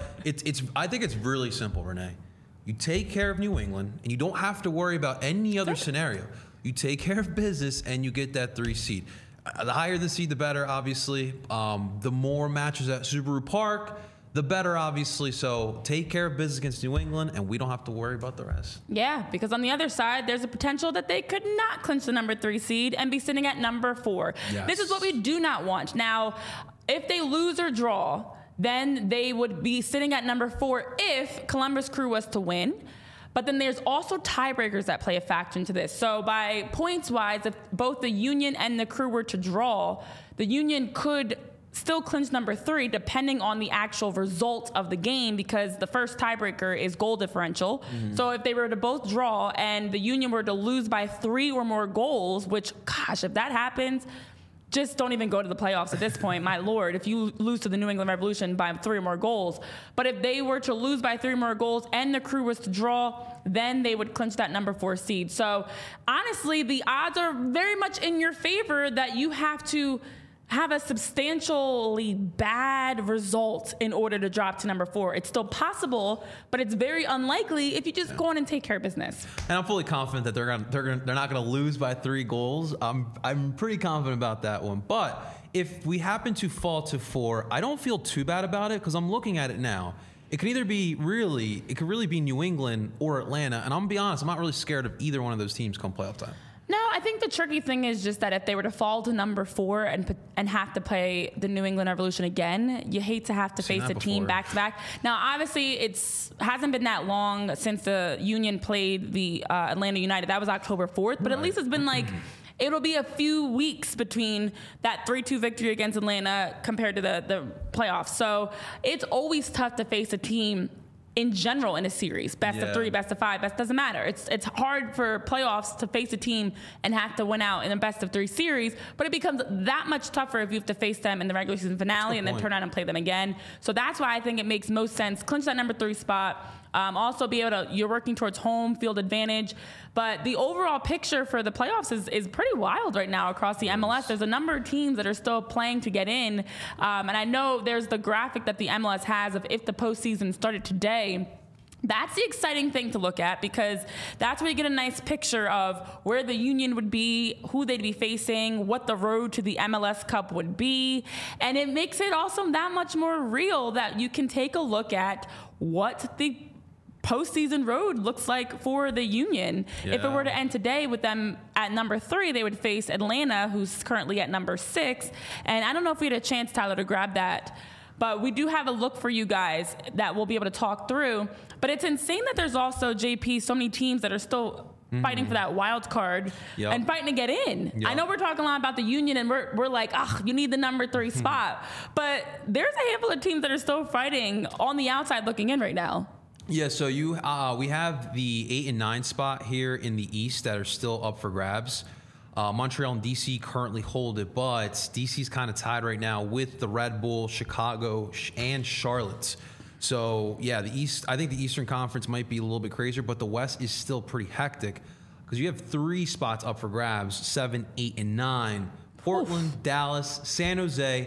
I think it's really simple, Renee. You take care of New England, and you don't have to worry about any other scenario. You take care of business, and you get that 3 seed. The higher the seed, the better, obviously. The more matches at Subaru Park, the better, obviously. So take care of business against New England, and we don't have to worry about the rest. Yeah, because on the other side, there's a potential that they could not clinch the number 3 seed and be sitting at number 4. Yes. This is what we do not want. Now, if they lose or draw, then they would be sitting at number 4 if Columbus Crew was to win. But then there's also tiebreakers that play a factor into this. So by points-wise, if both the Union and the Crew were to draw, the Union could still clinch number 3 depending on the actual result of the game, because the first tiebreaker is goal differential. Mm-hmm. So if they were to both draw and the Union were to lose by 3 or more goals, which, gosh, if that happens, just don't even go to the playoffs at this point. My Lord, if you lose to the New England Revolution by 3 or more goals. But if they were to lose by 3 or more goals and the Crew was to draw, then they would clinch that number 4 seed. So honestly, the odds are very much in your favor that you have to have a substantially bad result in order to drop to number 4. It's still possible, but it's very unlikely if you just go on and take care of business. And I'm fully confident that they're not going to lose by 3 goals. I'm pretty confident about that one. But if we happen to fall to 4, I don't feel too bad about it, because I'm looking at it now. It could either be it could really be New England or Atlanta. And I'm going to be honest, I'm not really scared of either one of those teams come playoff time. No, I think the tricky thing is just that if they were to fall to number 4 and have to play the New England Revolution again, you hate to have to face a team back to back. Now, obviously, hasn't been that long since the Union played the Atlanta United. That was October 4th, but at least it's been it'll be a few weeks between that 3-2 victory against Atlanta compared to the playoffs. So it's always tough to face a team in general in a series, best of 3, best of 5, doesn't matter. It's hard for playoffs to face a team and have to win out in a best of 3 series, but it becomes that much tougher if you have to face them in the regular season finale and then turn out and play them again. So that's why I think it makes most sense. Clinch that number 3 spot. Also be able to, you're working towards home field advantage. But the overall picture for the playoffs is pretty wild right now across the MLS. There's a number of teams that are still playing to get in. And I know there's the graphic that the MLS has of if the postseason started today. That's the exciting thing to look at, because that's where you get a nice picture of where the Union would be, who they'd be facing, what the road to the MLS Cup would be. And it makes it also that much more real that you can take a look at what the postseason road looks like for the Union. Yeah. If it were to end today with them at number 3, they would face Atlanta, who's currently at number 6. And I don't know if we had a chance, Tyler, to grab that, but we do have a look for you guys that we'll be able to talk through. But it's insane that there's also, JP, so many teams that are still fighting for that wild card and fighting to get in. Yep. I know we're talking a lot about the Union, and we're like, you need the number 3 spot. But there's a handful of teams that are still fighting on the outside looking in right now. Yeah, so we have the 8 and 9 spot here in the East that are still up for grabs. Montreal and DC currently hold it, but DC's kind of tied right now with the Red Bull, Chicago, and Charlotte. So, yeah, the East. I think the Eastern Conference might be a little bit crazier, but the West is still pretty hectic because you have 3 spots up for grabs, 7, 8, and 9. Portland, Dallas, San Jose,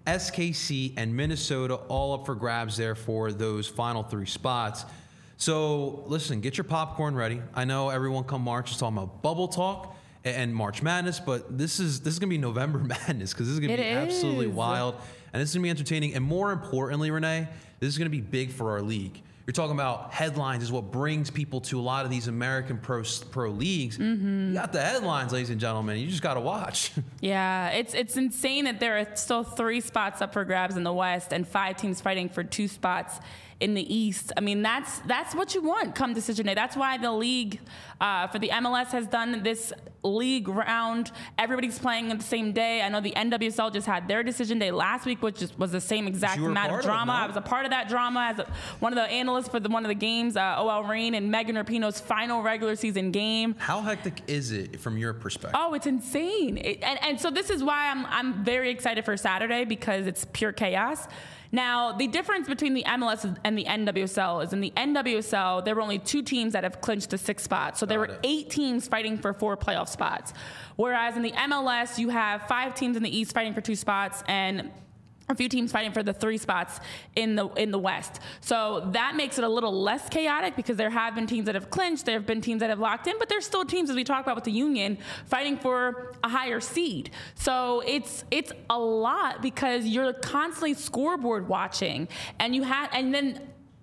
SKC, and Minnesota all up for grabs there for those final 3 spots. So, listen, get your popcorn ready. I know everyone come March is talking about bubble talk, and March Madness, but this is going to be November Madness because this is going to be absolutely wild, and this is going to be entertaining. And more importantly, Renee, this is going to be big for our league. You're talking about headlines is what brings people to a lot of these American pro leagues. You got the headlines, ladies and gentlemen. You just got to watch. Yeah, it's insane that there are still 3 spots up for grabs in the West and 5 teams fighting for 2 spots in the East. I mean, that's what you want come decision day. That's why the league for the MLS has done this league round. Everybody's playing on the same day. I know the NWSL just had their decision day last week, which was the same exact amount of drama. I was a part of that drama as one of the analysts for one of the games, OL Reign and Megan Rapinoe's final regular season game. How hectic is it from your perspective? Oh, it's insane. And so this is why I'm very excited for Saturday, because it's pure chaos. Now, the difference between the MLS and the NWSL is in the NWSL, there were only 2 teams that have clinched the 6 spots. So there were 8 teams fighting for 4 playoff spots. Whereas in the MLS, you have 5 teams in the East fighting for 2 spots and a few teams fighting for the 3 spots in the West. So that makes it a little less chaotic because there have been teams that have clinched, there have been teams that have locked in, but there's still teams, as we talk about with the Union, fighting for a higher seed. So it's a lot because you're constantly scoreboard watching, and then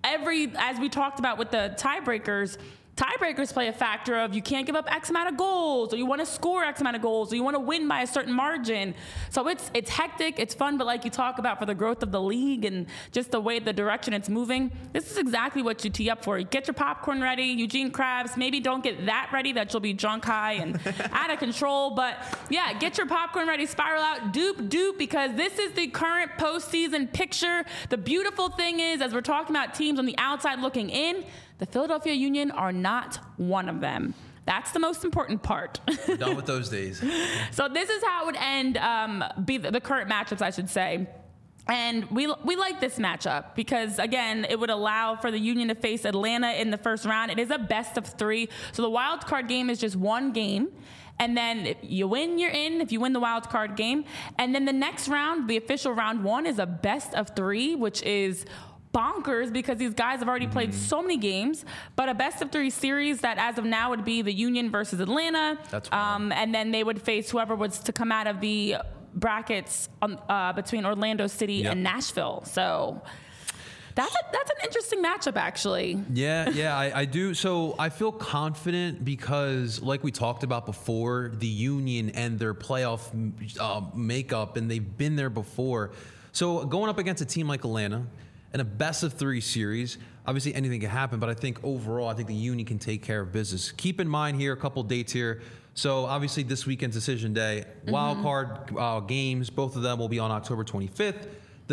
as we talked about with the tiebreakers play a factor of you can't give up X amount of goals, or you want to score X amount of goals, or you want to win by a certain margin. So it's hectic, it's fun, but like you talk about for the growth of the league and just the way the direction it's moving, this is exactly what you tee up for. You get your popcorn ready, Eugene Krabs, maybe don't get that ready that you'll be drunk high and out of control, but yeah, get your popcorn ready, spiral out, dupe, because this is the current postseason picture. The beautiful thing is, as we're talking about teams on the outside looking in, the Philadelphia Union are not one of them. That's the most important part. We're done with those days. So this is how it would end, be the current matchups, I should say. And we like this matchup because, again, it would allow for the Union to face Atlanta in the first round. It is a best of 3. So the wild card game is just 1 game. And then if you win, you're in, if you win the wild card game. And then the next round, the official round 1, is a best of 3, which is bonkers because these guys have already played so many games, but a best of 3 series that as of now would be the Union versus Atlanta. That's and then they would face whoever was to come out of the brackets between Orlando City and Nashville. So that's an interesting matchup, actually. Yeah, I do. So I feel confident because, like we talked about before, the Union and their playoff makeup, and they've been there before. So going up against a team like Atlanta in a best of 3 series, obviously anything can happen, but I think overall, I think the Union can take care of business. Keep in mind here, a couple dates here. So obviously this weekend's decision day, wild card games, both of them will be on October 25th.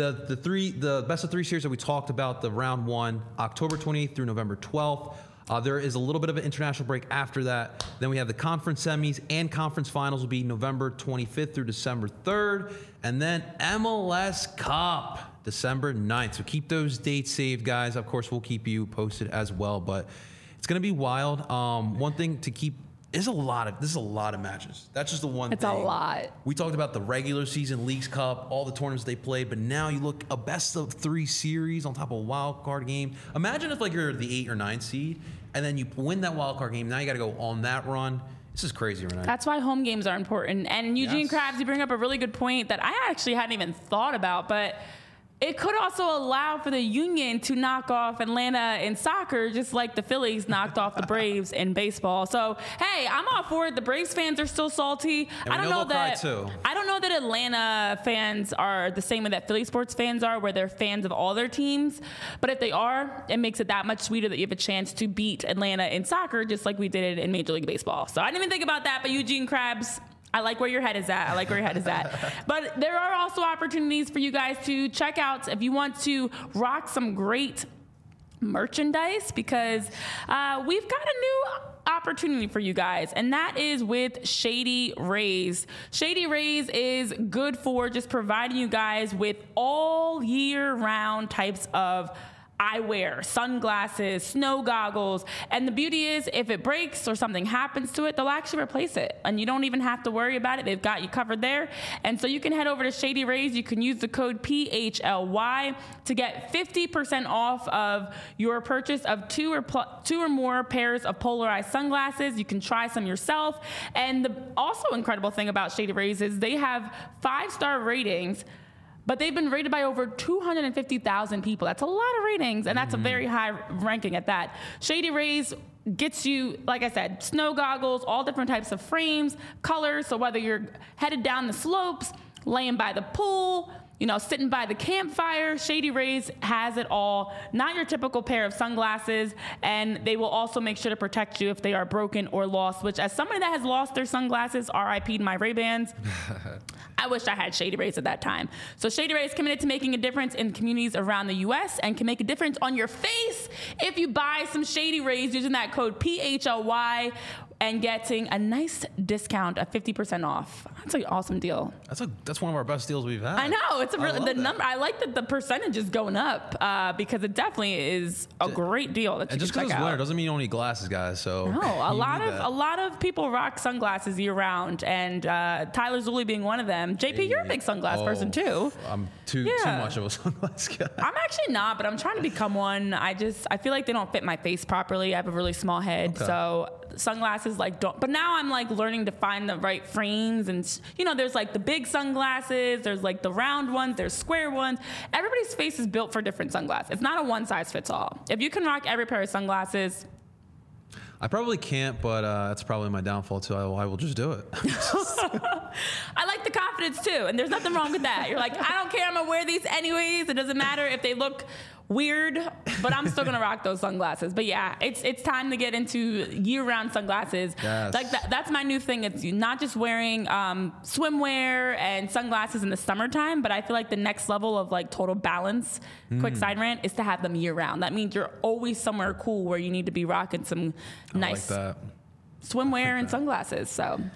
The best of 3 series that we talked about, the round 1, October 28th through November 12th. There is a little bit of an international break after that. Then we have the conference semis and conference finals will be November 25th through December 3rd. And then MLS Cup, December 9th. So keep those dates saved, guys. Of course, we'll keep you posted as well. But it's going to be wild. One thing to keep this is a lot of matches. That's just the one thing. It's a lot. We talked about the regular season, Leagues Cup, all the tournaments they played, but now you look a best of 3 series on top of a wild card game. Imagine if you're the 8 or 9 seed, and then you win that wild card game. Now you got to go on that run. This is crazy, Renee. That's why home games are important. And Eugene Krabs, you bring up a really good point that I actually hadn't even thought about, but it could also allow for the Union to knock off Atlanta in soccer, just like the Phillies knocked off the Braves in baseball. So, hey, I'm all for it. The Braves fans are still salty. I don't know that Atlanta fans are the same way that Philly sports fans are, where they're fans of all their teams. But if they are, it makes it that much sweeter that you have a chance to beat Atlanta in soccer, just like we did it in Major League Baseball. So I didn't even think about that, but Eugene Krabs, I like where your head is at. But there are also opportunities for you guys to check out if you want to rock some great merchandise, because we've got a new opportunity for you guys, and that is with Shady Rays. Shady Rays is good for just providing you guys with all year round types of eyewear, sunglasses, snow goggles. And the beauty is, if it breaks or something happens to it, they'll actually replace it. And you don't even have to worry about it. They've got you covered there. And so you can head over to Shady Rays. You can use the code PHLY to get 50% off of your purchase of two or more pairs of polarized sunglasses. You can try some yourself. And the also incredible thing about Shady Rays is they have 5-star ratings, but they've been rated by over 250,000 people. That's a lot of ratings, and that's a very high ranking at that. Shady Rays gets you, like I said, snow goggles, all different types of frames, colors. So whether you're headed down the slopes, laying by the pool, sitting by the campfire, Shady Rays has it all. Not your typical pair of sunglasses, and they will also make sure to protect you if they are broken or lost, which as somebody that has lost their sunglasses, RIP'd my Ray-Bans, I wish I had Shady Rays at that time. So Shady Rays is committed to making a difference in communities around the U.S. and can make a difference on your face if you buy some Shady Rays using that code PHLY and getting a nice discount of 50% off. That's an awesome deal. That's one of our best deals we've had. I know. It's number. I like that the percentage is going up because it definitely is a great deal. That you and just because it's winter doesn't mean you don't need glasses, guys. So no, a lot of people rock sunglasses year round, and Tyler Zulli being one of them. JP, you're a big sunglass person too. I'm too much of a sunglass guy. I'm actually not, but I'm trying to become one. I feel like they don't fit my face properly. I have a really small head, so sunglasses don't. But now I'm learning to find the right frames, and there's the big sunglasses, there's the round ones, there's square ones. Everybody's face is built for different sunglasses. It's not a one size fits all. If you can rock every pair of sunglasses, I probably can't, but that's probably my downfall too. I will just do it. I like the confidence too, and there's nothing wrong with that. You're I don't care, I'm gonna wear these anyways. It doesn't matter if they look weird, but I'm still gonna rock those sunglasses. But yeah, it's time to get into year-round sunglasses. Yes. That's my new thing. It's not just wearing swimwear and sunglasses in the summertime, but I feel like the next level of total balance, quick side rant, is to have them year-round. That means you're always somewhere cool where you need to be rocking some nice swimwear and sunglasses.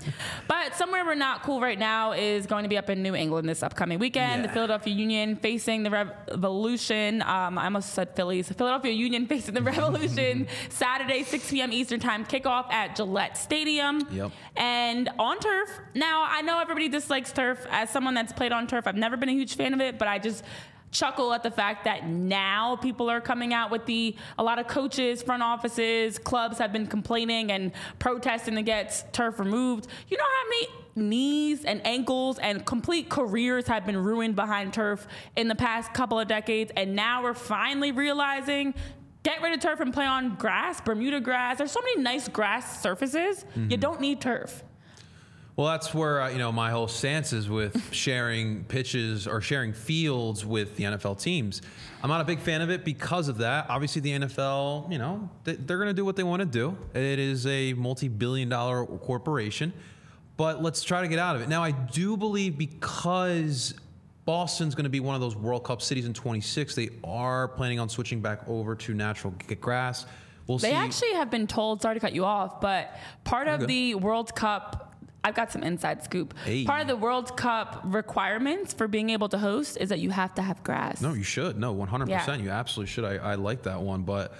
But somewhere we're not cool right now is going to be up in New England this upcoming weekend. The Philadelphia Union facing the Revolution. I almost said Phillies. Philadelphia Union facing the Revolution Saturday, 6 p.m. Eastern time kickoff at Gillette Stadium. Yep. And on turf. Now, I know everybody dislikes turf. As someone that's played on turf, I've never been a huge fan of it, but I just chuckle at the fact that now people are coming out with a lot of coaches, front offices, clubs have been complaining and protesting to get turf removed. You know how many knees and ankles and complete careers have been ruined behind turf in the past couple of decades, and now we're finally realizing, get rid of turf and play on grass, Bermuda grass. There's so many nice grass surfaces. You don't need turf. Well, that's where my whole stance is with sharing pitches or sharing fields with the NFL teams. I'm not a big fan of it because of that. Obviously, the NFL, they're going to do what they want to do. It is a multi-billion-dollar corporation, but let's try to get out of it. Now, I do believe because Boston's going to be one of those World Cup cities in 26, they are planning on switching back over to natural grass. We'll see. They actually have been told, sorry to cut you off, but part of the World Cup, I've got some inside scoop. Hey. Part of the World Cup requirements for being able to host is that you have to have grass. No, you should. No, 100%. Yeah. You absolutely should. I like that one. But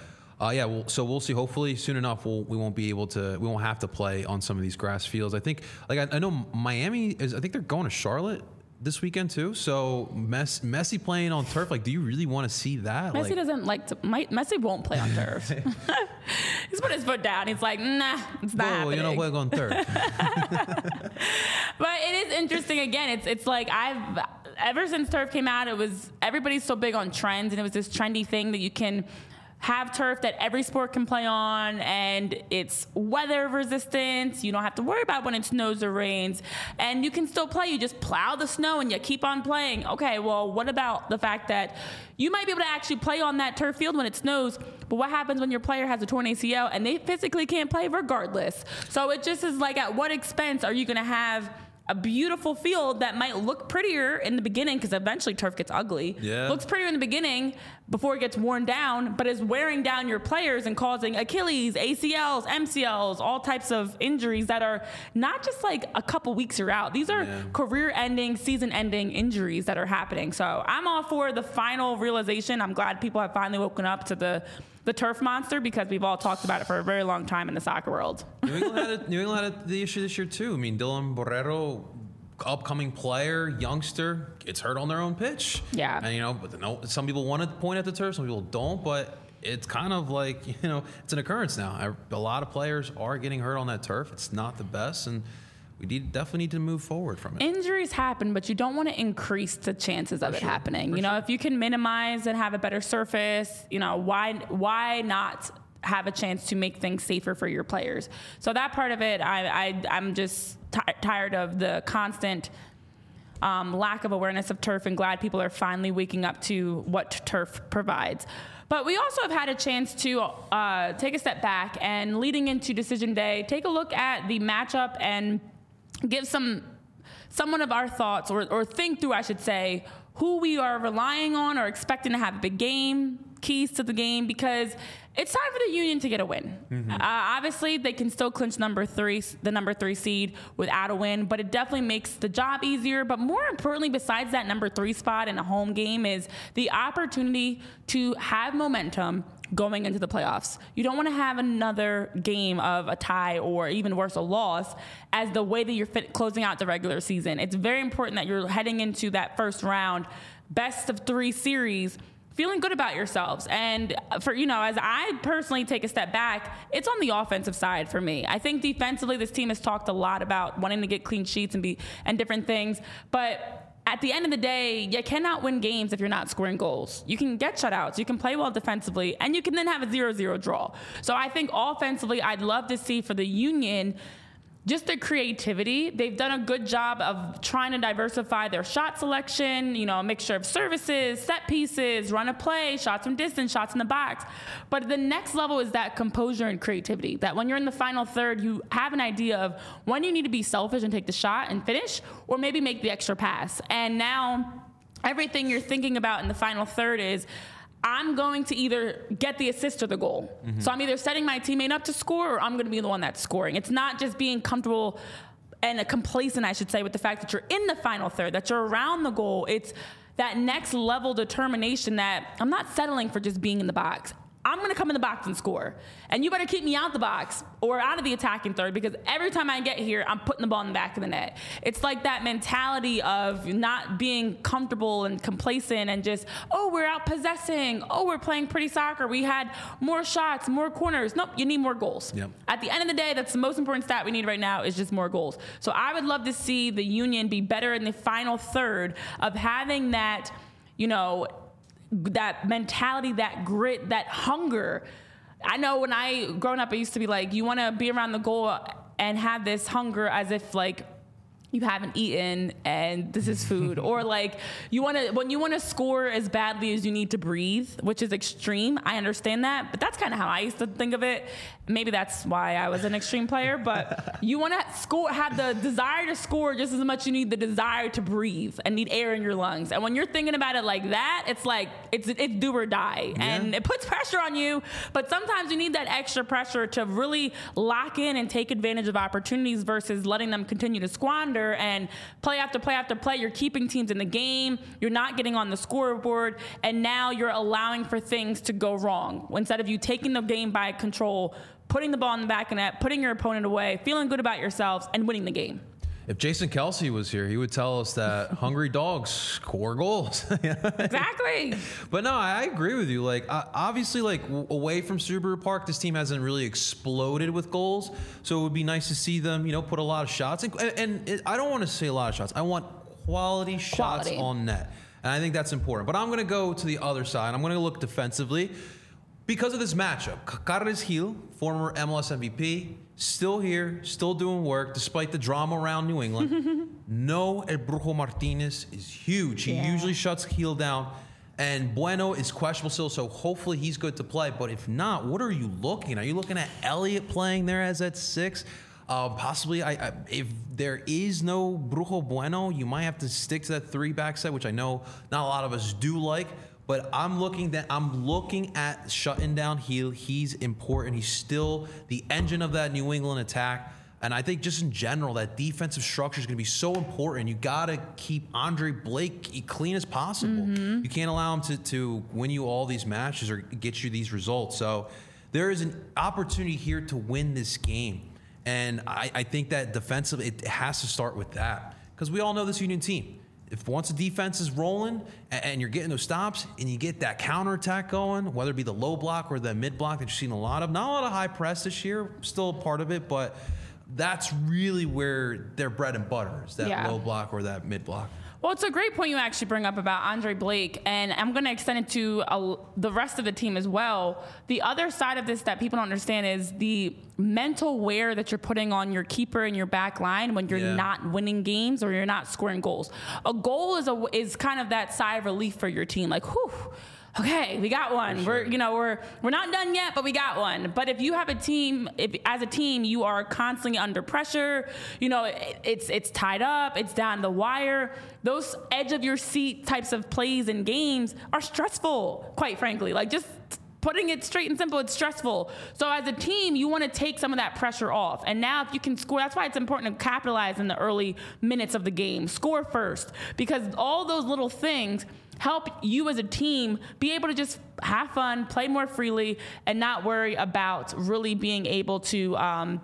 so we'll see. Hopefully soon enough we won't have to play on some of these grass fields. I think I know Miami I think they're going to Charlotte this weekend too. So Messi playing on turf, do you really want to see that? Messi doesn't Messi won't play on turf. He's put his foot down. He's like, nah, it's not happening. You know, we're on turf. But it is interesting. Again, it's ever since turf came out, everybody's so big on trends, and it was this trendy thing that you can have turf that every sport can play on, and it's weather resistant. You don't have to worry about when it snows or rains, and you can still play. You just plow the snow and you keep on playing. Okay, well, what about the fact that you might be able to actually play on that turf field when it snows, but what happens when your player has a torn ACL and they physically can't play regardless? So it just is at what expense are you going to have a beautiful field that might look prettier in the beginning, because eventually turf gets ugly. Yeah. Looks prettier in the beginning, before it gets worn down, but is wearing down your players and causing Achilles, ACLs, MCLs, all types of injuries that are not just like a couple weeks you're out. These are career-ending, season-ending injuries that are happening. So I'm all for the final realization. I'm glad people have finally woken up to the turf monster, because we've all talked about it for a very long time in the soccer world. New England had the issue this year too. I mean, Dylan Borrero, upcoming player, youngster, gets hurt on their own pitch. Yeah. And, but some people want to point at the turf, some people don't, but it's kind of like, it's an occurrence now. A lot of players are getting hurt on that turf. It's not the best, and we definitely need to move forward from it. Injuries happen, but you don't want to increase the chances of it happening. If you can minimize and have a better surface, why not have a chance to make things safer for your players? So that part of it, I'm just tired of the constant lack of awareness of turf, and glad people are finally waking up to what turf provides. But we also have had a chance to take a step back, and leading into decision day, take a look at the matchup and give somewhat of our thoughts, or think through, I should say, who we are relying on or expecting to have a big game, keys to the game, because it's time for the Union to get a win. Obviously, they can still clinch the number 3 seed without a win, but it definitely makes the job easier. But more importantly, besides that number 3 spot in a home game, is the opportunity to have momentum going into the playoffs. You don't want to have another game of a tie, or even worse, a loss, as the way that you're closing out the regular season. It's very important that you're heading into that first round, best of 3 series, feeling good about yourselves. And for, as I personally take a step back, it's on the offensive side for me. I think defensively, this team has talked a lot about wanting to get clean sheets and different things, but at the end of the day, you cannot win games if you're not scoring goals. You can get shutouts, you can play well defensively, and you can then have a 0-0 draw. So I think offensively, I'd love to see for the Union just their creativity. They've done a good job of trying to diversify their shot selection, a mixture of services, set pieces, run a play, shots from distance, shots in the box. But the next level is that composure and creativity, that when you're in the final third, you have an idea of when you need to be selfish and take the shot and finish, or maybe make the extra pass. And now everything you're thinking about in the final third is, I'm going to either get the assist or the goal. So I'm either setting my teammate up to score, or I'm going to be the one that's scoring. It's not just being comfortable and complacent, I should say, with the fact that you're in the final third, that you're around the goal. It's that next level determination that I'm not settling for just being in the box. I'm going to come in the box and score. And you better keep me out the box or out of the attacking third, because every time I get here, I'm putting the ball in the back of the net. It's like that mentality of not being comfortable and complacent and just, we're out possessing. We're playing pretty soccer. We had more shots, more corners. Nope, you need more goals. Yep. At the end of the day, that's the most important stat we need right now, is just more goals. So I would love to see the Union be better in the final third of having that, that mentality, that grit, that hunger. I know when growing up, I used to be like, you want to be around the goal and have this hunger as if like you haven't eaten and this is food, or like when you want to score as badly as you need to breathe, which is extreme. I understand that, but that's kind of how I used to think of it. Maybe that's why I was an extreme player, but you want to score, have the desire to score just as much as you need the desire to breathe and need air in your lungs. And when you're thinking about it like that, it's like, it's do or die. Yeah. And it puts pressure on you, but sometimes you need that extra pressure to really lock in and take advantage of opportunities versus letting them continue to squander. And play after play after play, you're keeping teams in the game, you're not getting on the scoreboard, and now you're allowing for things to go wrong. Instead of you taking the game by control, putting the ball in the back of the net, putting your opponent away, feeling good about yourselves, and winning the game. If Jason Kelsey was here, he would tell us that hungry dogs score goals. Exactly. But no, I agree with you. Like, obviously, like away from Subaru Park, this team hasn't really exploded with goals. So it would be nice to see them, put a lot of shots. And I don't want to say a lot of shots. I want quality shots on net. And I think that's important. But I'm going to go to the other side. I'm going to look defensively. Because of this matchup, Carles Gil, former MLS MVP, still here, still doing work, despite the drama around New England. No, El Brujo Martinez is huge. He usually shuts Gil down. And Bueno is questionable still, so hopefully he's good to play. But if not, what are you looking? Are you looking at Elliott playing there as at 6? Possibly, if there is no Brujo Bueno, you might have to stick to that 3-back set, which I know not a lot of us do like. But I'm looking at shutting down Hill. He's important. He's still the engine of that New England attack. And I think just in general, that defensive structure is going to be so important. You got to keep Andre Blake clean as possible. You can't allow him to win you all these matches or get you these results. So there is an opportunity here to win this game. And I think that defensively, it has to start with that. Because we all know this Union team. If once the defense is rolling and you're getting those stops and you get that counterattack going, whether it be the low block or the mid block that you've seen a lot of, not a lot of high press this year, still a part of it, but that's really where their bread and butter is, that low block or that mid block. Well, it's a great point you actually bring up about Andre Blake, and I'm going to extend it to the rest of the team as well. The other side of this that people don't understand is the mental wear that you're putting on your keeper and your back line when you're not winning games or you're not scoring goals. A goal is kind of that sigh of relief for your team, like, whew. Okay, we got one. Sure. We're not done yet, but we got one. But if you have a team, as a team you are constantly under pressure, it's tied up, it's down the wire. Those edge of your seat types of plays and games are stressful, quite frankly. Like, just putting it straight and simple, it's stressful. So as a team, you want to take some of that pressure off. And now if you can score, that's why it's important to capitalize in the early minutes of the game. Score first, because all those little things help you as a team be able to just have fun, play more freely, and not worry about really being able to,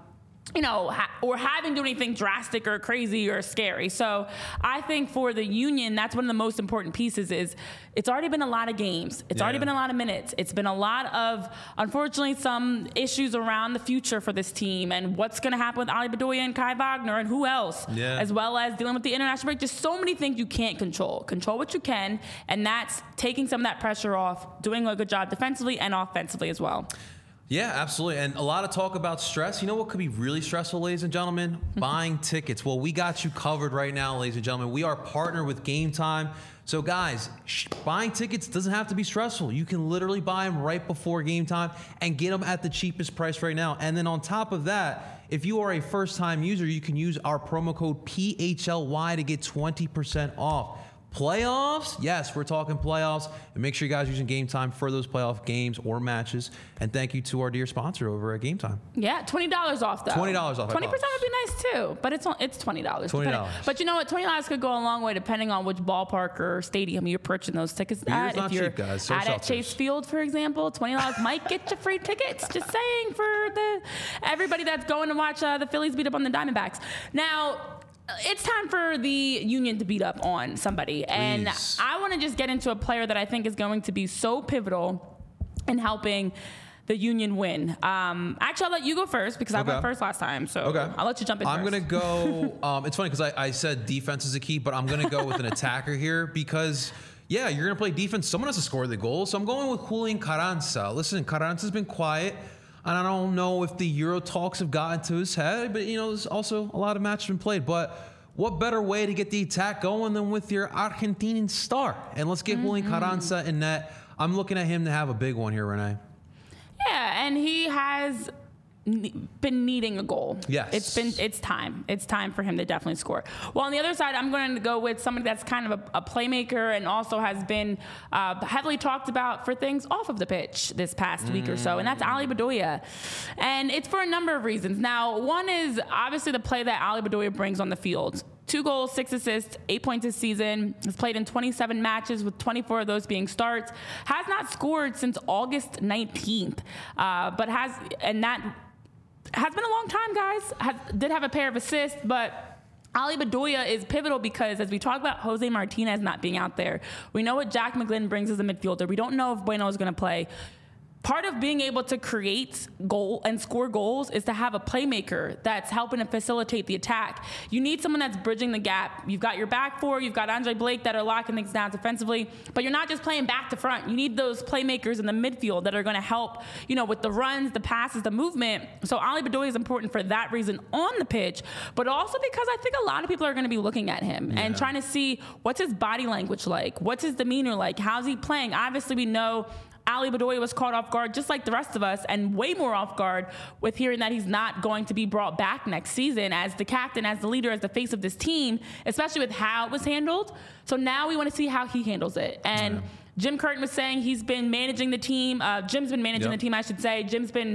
or having to do anything drastic or crazy or scary. So I think for the Union, that's one of the most important pieces is it's already been a lot of games. It's already been a lot of minutes. It's been a lot of, unfortunately, some issues around the future for this team and what's going to happen with Ali Bedoya and Kai Wagner and who else, as well as dealing with the international break. Just so many things you can't control. Control what you can, and that's taking some of that pressure off, doing a good job defensively and offensively as well. Yeah, absolutely. And a lot of talk about stress. You know what could be really stressful, ladies and gentlemen? Buying tickets. Well, we got you covered right now, ladies and gentlemen. We are partnered with Game Time. So, guys, buying tickets doesn't have to be stressful. You can literally buy them right before game time and get them at the cheapest price right now. And then on top of that, if you are a first-time user, you can use our promo code PHLY to get 20% off. Playoffs? Yes, we're talking playoffs. And make sure you guys are using Game Time for those playoff games or matches. And thank you to our dear sponsor over at Game Time. Yeah, $20 off though. $20 off. 20% would be nice too, but it's $20. $20. But you know what? $20 could go a long way depending on which ballpark or stadium you're purchasing those tickets at. Not if you're cheap, guys. So at Chase Field, for example, $20 might get you free tickets. Just saying for everybody that's going to watch the Phillies beat up on the Diamondbacks. Now, it's time for the Union to beat up on somebody. Please. And I want to just get into a player that I think is going to be so pivotal in helping the Union win. Actually, I'll let you go first because I went first last time. So I'll let you jump in I'm first. going to go. It's funny because I said defense is a key, but I'm going to go with an attacker here because, you're going to play defense. Someone has to score the goal. So I'm going with Julian Carranza. Listen, Carranza's been quiet. And I don't know if the Euro talks have gotten to his head, but, there's also a lot of matches been played. But what better way to get the attack going than with your Argentinian star? And let's get Julian Carranza in net. I'm looking at him to have a big one here, Renee. Yeah, and he has been needing a goal. Yes. It's time. It's time for him to definitely score. Well, on the other side, I'm going to go with somebody that's kind of a playmaker and also has been heavily talked about for things off of the pitch this past week or so, and that's Ali Bedoya. And it's for a number of reasons. Now, one is obviously the play that Ali Bedoya brings on the field. 2 goals, 6 assists, 8 points this season. Has played in 27 matches with 24 of those being starts. Has not scored since August 19th, but has been a long time, guys. Did have a pair of assists, but Ali Bedoya is pivotal because as we talk about Jose Martinez not being out there, we know what Jack McGlynn brings as a midfielder. We don't know if Bueno is going to play. Part of being able to create goal and score goals is to have a playmaker that's helping to facilitate the attack. You need someone that's bridging the gap. You've got your back four, you've got Andre Blake that are locking things down defensively, but you're not just playing back to front. You need those playmakers in the midfield that are going to help, with the runs, the passes, the movement. So Ali Bedoya is important for that reason on the pitch, but also because I think a lot of people are going to be looking at him and trying to see what's his body language like, what's his demeanor like, how's he playing. Obviously, we know Ali Bedoya was caught off guard just like the rest of us and way more off guard with hearing that he's not going to be brought back next season as the captain, as the leader, as the face of this team, especially with how it was handled. So now we want to see how he handles it. And Jim Curtin was saying he's been managing the team. Jim's been managing the team, I should say.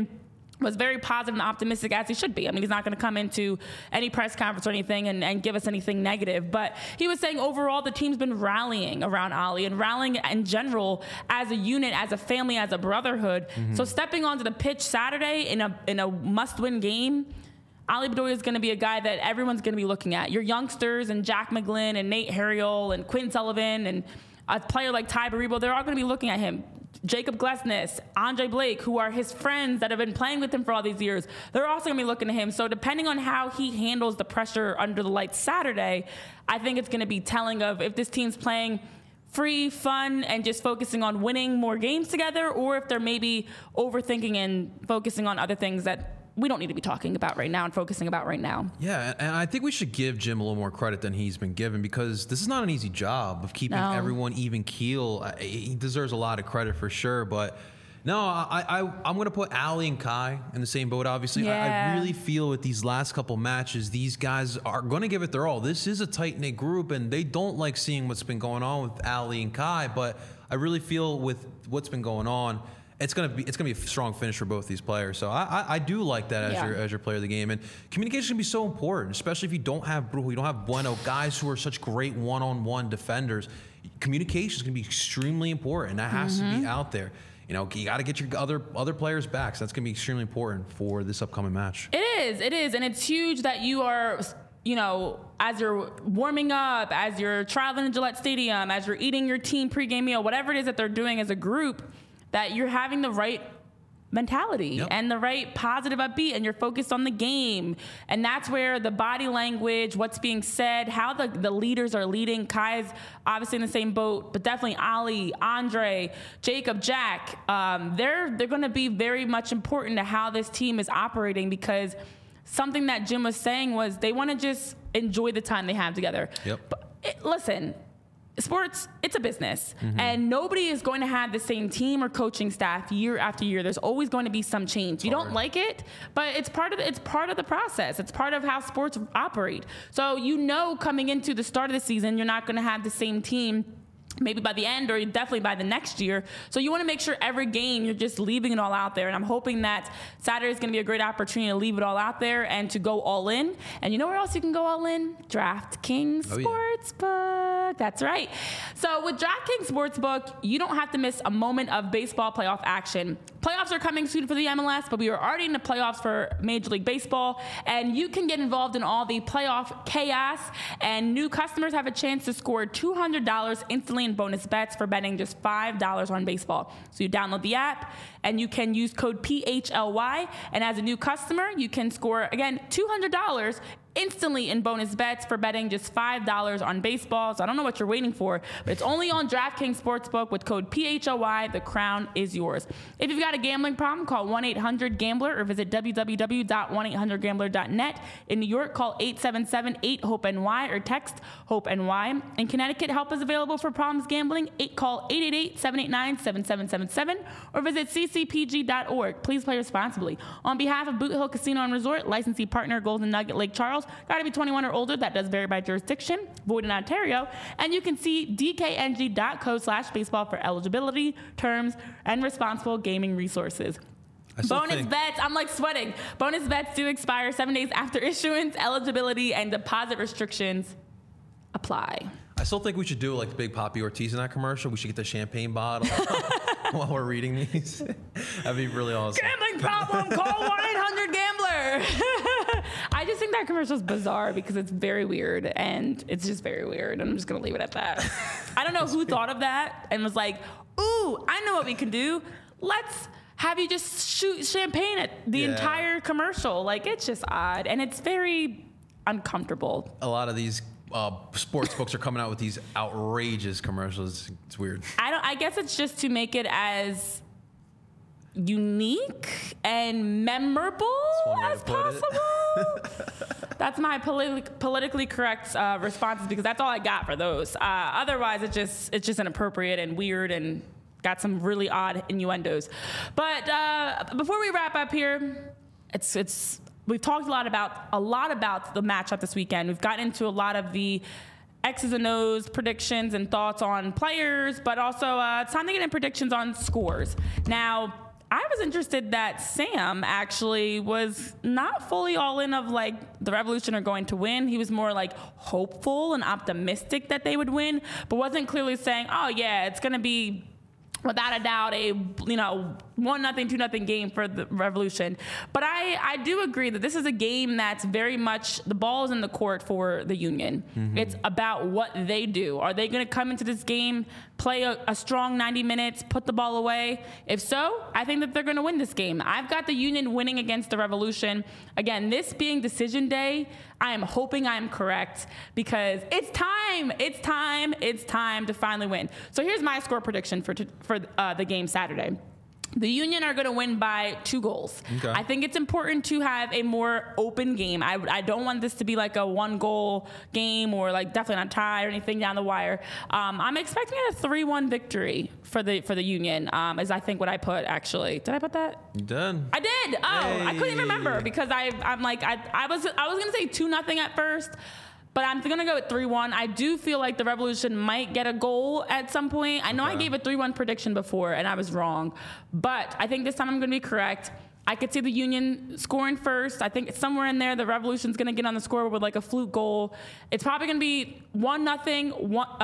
Was very positive and optimistic, as he should be. I mean, he's not going to come into any press conference or anything and give us anything negative. But he was saying overall the team's been rallying around Ali and rallying in general as a unit, as a family, as a brotherhood. So stepping onto the pitch Saturday in a must-win game, Ali Bedoya is going to be a guy that everyone's going to be looking at. Your youngsters and Jack McGlynn and Nate Harriel and Quinn Sullivan and a player like Ty Baribo, they're all going to be looking at him. Jacob Glesnes, Andre Blake, who are his friends that have been playing with him for all these years, they're also going to be looking at him. So depending on how he handles the pressure under the lights Saturday, I think it's going to be telling of if this team's playing free, fun, and just focusing on winning more games together, or if they're maybe overthinking and focusing on other things that we don't need to be talking about right now and focusing about right now. Yeah, and I think we should give Jim a little more credit than he's been given, because this is not an easy job of keeping everyone even keel. He deserves a lot of credit for sure, but no, I'm going to put Ali and Kai in the same boat, obviously. I really feel with these last couple matches, these guys are going to give it their all. This is a tight-knit group, and they don't like seeing what's been going on with Ali and Kai, but I really feel with what's been going on, it's gonna be a strong finish for both these players. So I do like that as your player of the game. And communication can be so important, especially if you don't have Brujo, you don't have Bueno, guys who are such great one-on-one defenders. Communication is gonna be extremely important. That has to be out there. You know, you got to get your other players back. So that's gonna be extremely important for this upcoming match. It is, and it's huge that you are, you know, as you're warming up, as you're traveling to Gillette Stadium, as you're eating your team pregame meal, whatever it is that they're doing as a group, that you're having the right mentality and the right positive upbeat, and you're focused on the game. And that's where the body language, what's being said, how the leaders are leading. Kai's obviously in the same boat, but definitely Ali, Andre, Jacob, Jack, they're going to be very much important to how this team is operating, because something that Jim was saying was they want to just enjoy the time they have together. But listen, sports, it's a business, and nobody is going to have the same team or coaching staff year after year. There's always going to be some change. You don't like it, but it's part of the process. It's part of how sports operate. So coming into the start of the season, you're not going to have the same team maybe by the end, or definitely by the next year. So you want to make sure every game you're just leaving it all out there. And I'm hoping that Saturday is going to be a great opportunity to leave it all out there and to go all in. And you know where else you can go all in? DraftKings Sportsbook. That's right. So with DraftKings Sportsbook, you don't have to miss a moment of baseball playoff action. Playoffs are coming soon for the MLS, but we are already in the playoffs for Major League Baseball, and you can get involved in all the playoff chaos, and new customers have a chance to score $200 instantly in bonus bets for betting just $5 on baseball. So you download the app, and you can use code PHLY, and as a new customer, you can score, again, $200 instantly in bonus bets for betting just $5 on baseball. So I don't know what you're waiting for, but it's only on DraftKings Sportsbook with code PHLY. The crown is yours. If you've got a gambling problem, call 1-800-GAMBLER or visit www.1800gambler.net. In New York, call 877-8-HOPE-NY or text HOPE-NY. In Connecticut, help is available for problems gambling. Call 888-789-7777 or visit ccpg.org. Please play responsibly. On behalf of Boot Hill Casino and Resort, licensee partner Golden Nugget Lake Charles, got to be 21 or older. That does vary by jurisdiction. Void in Ontario. And you can see dkng.co/baseball for eligibility, terms, and responsible gaming resources. Bonus bets, I'm like sweating. Bonus bets do expire 7 days after issuance. Eligibility and deposit restrictions apply. I still think we should do like the big Poppy Ortiz in that commercial. We should get the champagne bottle while we're reading these. That'd be really awesome. Gambling problem, call 1-800-GAMBLER. I just think that commercial is bizarre because it's very weird, and it's just very weird. And I'm just going to leave it at that. I don't know who thought of that and was like, ooh, I know what we can do. Let's have you just shoot champagne at the entire commercial. Like, it's just odd, and it's very uncomfortable. A lot of these sports books are coming out with these outrageous commercials. It's weird. I guess it's just to make it as unique and memorable as possible. That's my politically correct responses, because that's all I got for those. Otherwise, it's just inappropriate and weird and got some really odd innuendos. But before we wrap up here, we've talked a lot about the matchup this weekend. We've gotten into a lot of the X's and O's predictions and thoughts on players, but also it's time to get in predictions on scores. Now, I was interested that Sam actually was not fully all in of like the Revolution are going to win. He was more like hopeful and optimistic that they would win, but wasn't clearly saying, oh yeah, it's going to be without a doubt a 1-0, 2-0 game for the Revolution. But I do agree that this is a game that's very much the ball is in the court for the Union. Mm-hmm. It's about what they do. Are they going to come into this game, play a strong 90 minutes, put the ball away? If so, I think that they're going to win this game. I've got the Union winning against the Revolution. Again, this being decision day, I am hoping I am correct because it's time. It's time to finally win. So here's my score prediction for the game Saturday. The Union are going to win by 2 goals. Okay. I think it's important to have a more open game. I don't want this to be like a 1-goal game or like definitely not tie or anything down the wire. I'm expecting a 3-1 victory for the Union. Is I think what I put actually. Did I put that? You did. I did. Oh, hey. I couldn't even remember because I was going to say 2-0 at first. But I'm going to go with 3-1. I do feel like the Revolution might get a goal at some point. I know I gave a 3-1 prediction before, and I was wrong. But I think this time I'm going to be correct. I could see the Union scoring first. I think somewhere in there, the Revolution's going to get on the scoreboard with like a fluke goal. It's probably going to be 1-0,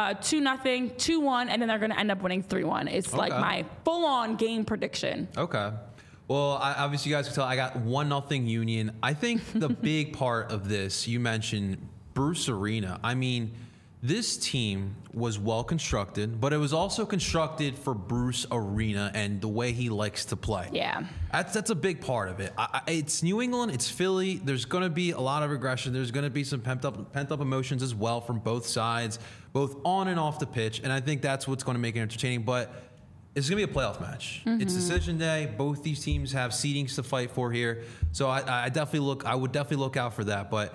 2-0, 2-1, and then they're going to end up winning 3-1. It's like my full-on game prediction. Okay. Well, obviously you guys can tell I got 1-0 Union. I think the big part of this, you mentioned Bruce Arena. I mean, this team was well constructed, but it was also constructed for Bruce Arena and the way he likes to play. Yeah. That's a big part of it. It's New England, it's Philly. There's going to be a lot of regression. There's going to be some pent up emotions as well from both sides, both on and off the pitch, and I think that's what's going to make it entertaining, but it's going to be a playoff match. Mm-hmm. It's decision day. Both these teams have seedings to fight for here. So I would definitely look out for that, but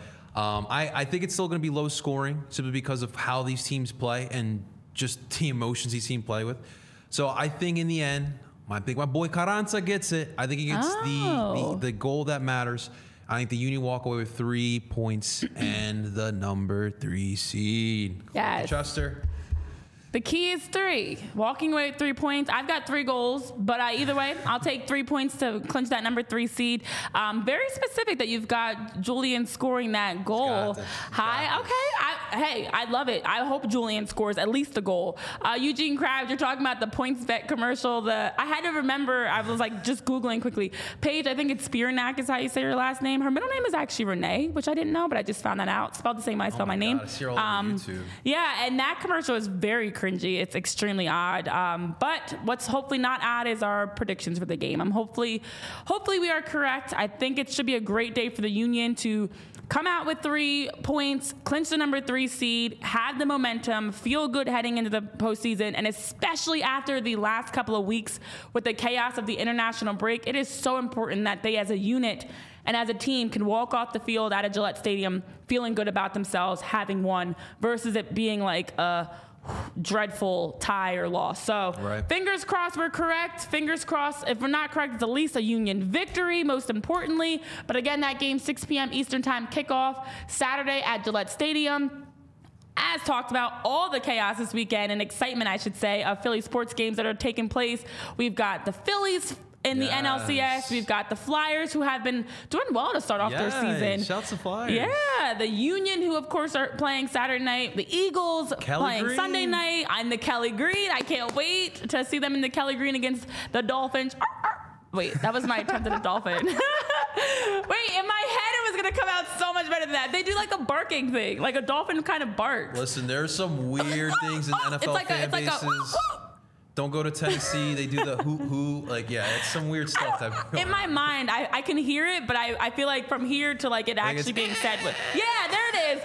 I think it's still going to be low scoring simply because of how these teams play and just the emotions these teams play with. So I think in the end, my boy Carranza gets it. I think he gets the goal that matters. I think the Union walk away with 3 points and the number 3 seed. Yes. Chester. The key is 3. Walking away with 3 points. I've got 3 goals, but either way, I'll take 3 points to clinch that number 3 seed. Very specific that you've got Julian scoring that goal. High. Okay. I love it. I hope Julian scores at least a goal. Eugene Krabs, you're talking about the PointsBet commercial. I had to remember, I was like just Googling quickly. Paige, I think it's Spiranak is how you say her last name. Her middle name is actually Renee, which I didn't know, but I just found that out. Spelled the same way I spell my name. God, I see her all over YouTube. Yeah, and that commercial is very cringy. It's extremely odd. But what's hopefully not odd is our predictions for the game. Hopefully we are correct. I think it should be a great day for the Union to come out with 3 points, clinch the number 3 seed, have the momentum, feel good heading into the postseason, and especially after the last couple of weeks with the chaos of the international break, it is so important that they as a unit and as a team can walk off the field at a Gillette Stadium feeling good about themselves, having won, versus it being like a dreadful tie or loss. So Fingers crossed we're correct. Fingers crossed if we're not correct, it's at least a Union victory, most importantly. But again, that game, 6 p.m. Eastern time kickoff, Saturday at Gillette Stadium. As talked about, all the chaos this weekend and excitement, I should say, of Philly sports games that are taking place. We've got the Phillies in the NLCS. We've got the Flyers, who have been doing well to start off their season. Shouts to Flyers. Yeah, the Union, who of course are playing Saturday night. The Eagles playing Green. Sunday night. I'm the Kelly Green. I can't wait to see them in the Kelly Green against the Dolphins. Wait, that was my attempt at a dolphin. Wait, in my head it was going to come out so much better than that. They do like a barking thing, like a dolphin kind of barks. Listen, there's some weird things in NFL fan bases. Don't go to Tennessee. They do the hoo. Like, yeah, it's some weird stuff. In my mind, I can hear it, but I feel like from here to like it actually being said with, yeah, there it is.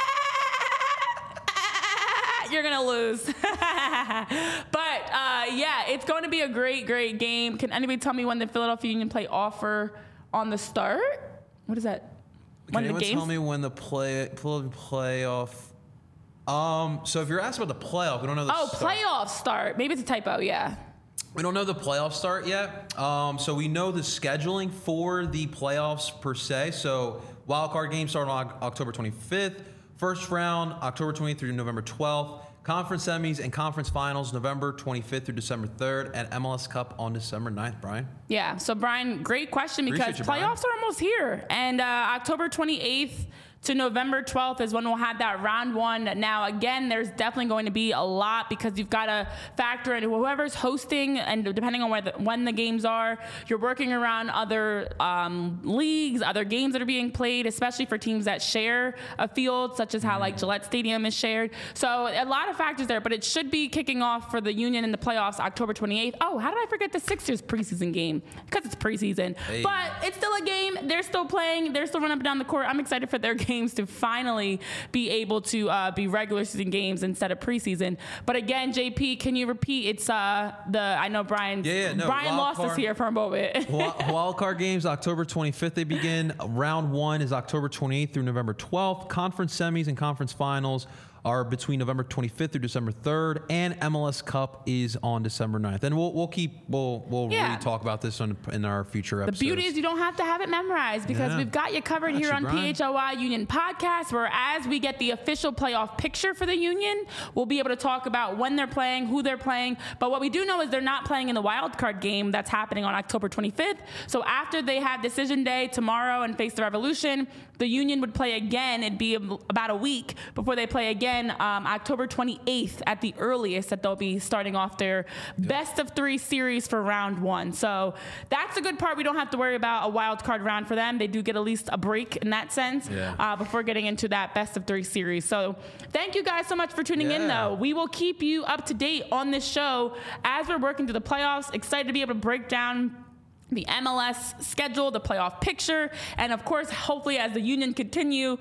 You're going to lose. But, yeah, it's going to be a great, great game. Can anybody tell me when the Philadelphia Union play offer on the start? What is that? Can anyone tell me when the playoff... So if you're asked about the playoff, we don't know the start. Playoff start. Maybe it's a typo, yeah. We don't know the playoff start yet. So we know the scheduling for the playoffs per se. So wild card games start on October 25th, First round, October 28th through November 12th. Conference semis and conference finals, November 25th through December 3rd, and MLS Cup on December 9th, Brian. Yeah, so Brian, great question because playoffs are almost here. And October 28th to November 12th is when we'll have that round one. Now, again, there's definitely going to be a lot because you've got to factor in whoever's hosting, and depending on when the games are, you're working around other leagues, other games that are being played, especially for teams that share a field, such as how like Gillette Stadium is shared. So a lot of factors there, but it should be kicking off for the Union in the playoffs October 28th. Oh, how did I forget the Sixers preseason game? Because it's preseason. Hey. But it's still a game. They're still playing. They're still running up and down the court. I'm excited for their game to finally be able to be regular season games instead of preseason. But again, JP, can you repeat? It's I know Brian. Brian lost us here for a moment. Wild card games, October 25th they begin. Round one is October 28th through November 12th. Conference semis and conference finals are between November 25th through December 3rd, and MLS Cup is on December 9th. And we'll really talk about this in our future episodes. The beauty is you don't have to have it memorized because we've got you covered here on PHLY Union Podcast, where as we get the official playoff picture for the Union, we'll be able to talk about when they're playing, who they're playing. But what we do know is they're not playing in the wild card game that's happening on October 25th. So after they have decision day tomorrow and face the Revolution, the Union would play again. It'd be about a week before they play again. October 28th at the earliest that they'll be starting off their best of three series for round one. So that's a good part. We don't have to worry about a wild card round for them. They do get at least a break in that sense before getting into that best of three series. So thank you guys so much for tuning in, though. We will keep you up to date on this show as we're working through the playoffs. Excited to be able to break down the MLS schedule, the playoff picture, and of course, hopefully as the Union continue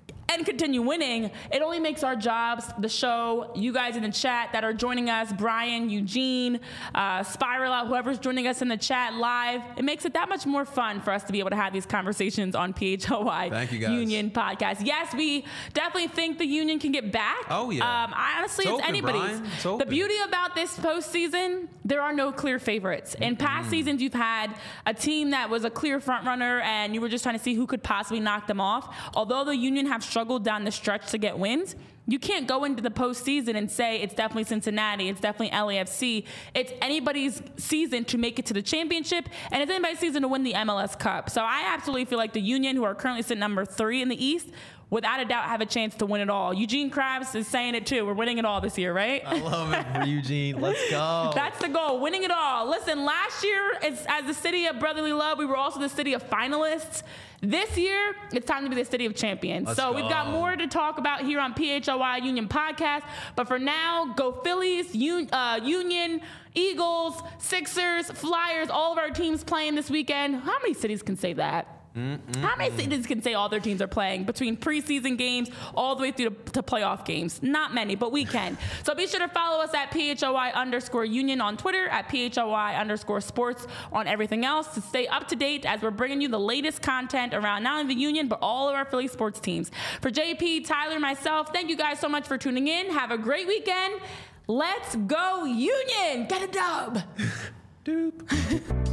winning, it only makes our jobs, the show, you guys in the chat that are joining us, Brian, Eugene, Spiral out, whoever's joining us in the chat live, it makes it that much more fun for us to be able to have these conversations on PHLY Union Podcast. Yes, we definitely think the Union can get back. Oh, yeah. Honestly, it's anybody's. The beauty about this postseason, there are no clear favorites. In past seasons, you've had a team that was a clear front runner, and you were just trying to see who could possibly knock them off. Although the Union have struggled down the stretch to get wins, you can't go into the postseason and say it's definitely Cincinnati, it's definitely LAFC. It's anybody's season to make it to the championship, and it's anybody's season to win the MLS Cup. So I absolutely feel like the Union, who are currently sitting number 3 in the East, without a doubt have a chance to win it all. Eugene Krabs is saying it too. We're winning it all this year, right? I love it for Eugene. Let's go. That's the goal, winning it all. Listen, last year, as the city of brotherly love, we were also the city of finalists. This year, it's time to be the city of champions. We've got more to talk about here on PHLY Union Podcast. But for now, go Phillies, Union, Eagles, Sixers, Flyers, all of our teams playing this weekend. How many cities can say that? How many cities can say all their teams are playing between preseason games all the way through to playoff games? Not many, but we can. So be sure to follow us at PHLY_Union on Twitter, at PHLY_sports on everything else to stay up to date as we're bringing you the latest content around not only the Union, but all of our Philly sports teams. For JP, Tyler, myself, thank you guys so much for tuning in. Have a great weekend. Let's go Union! Get a dub! Doop.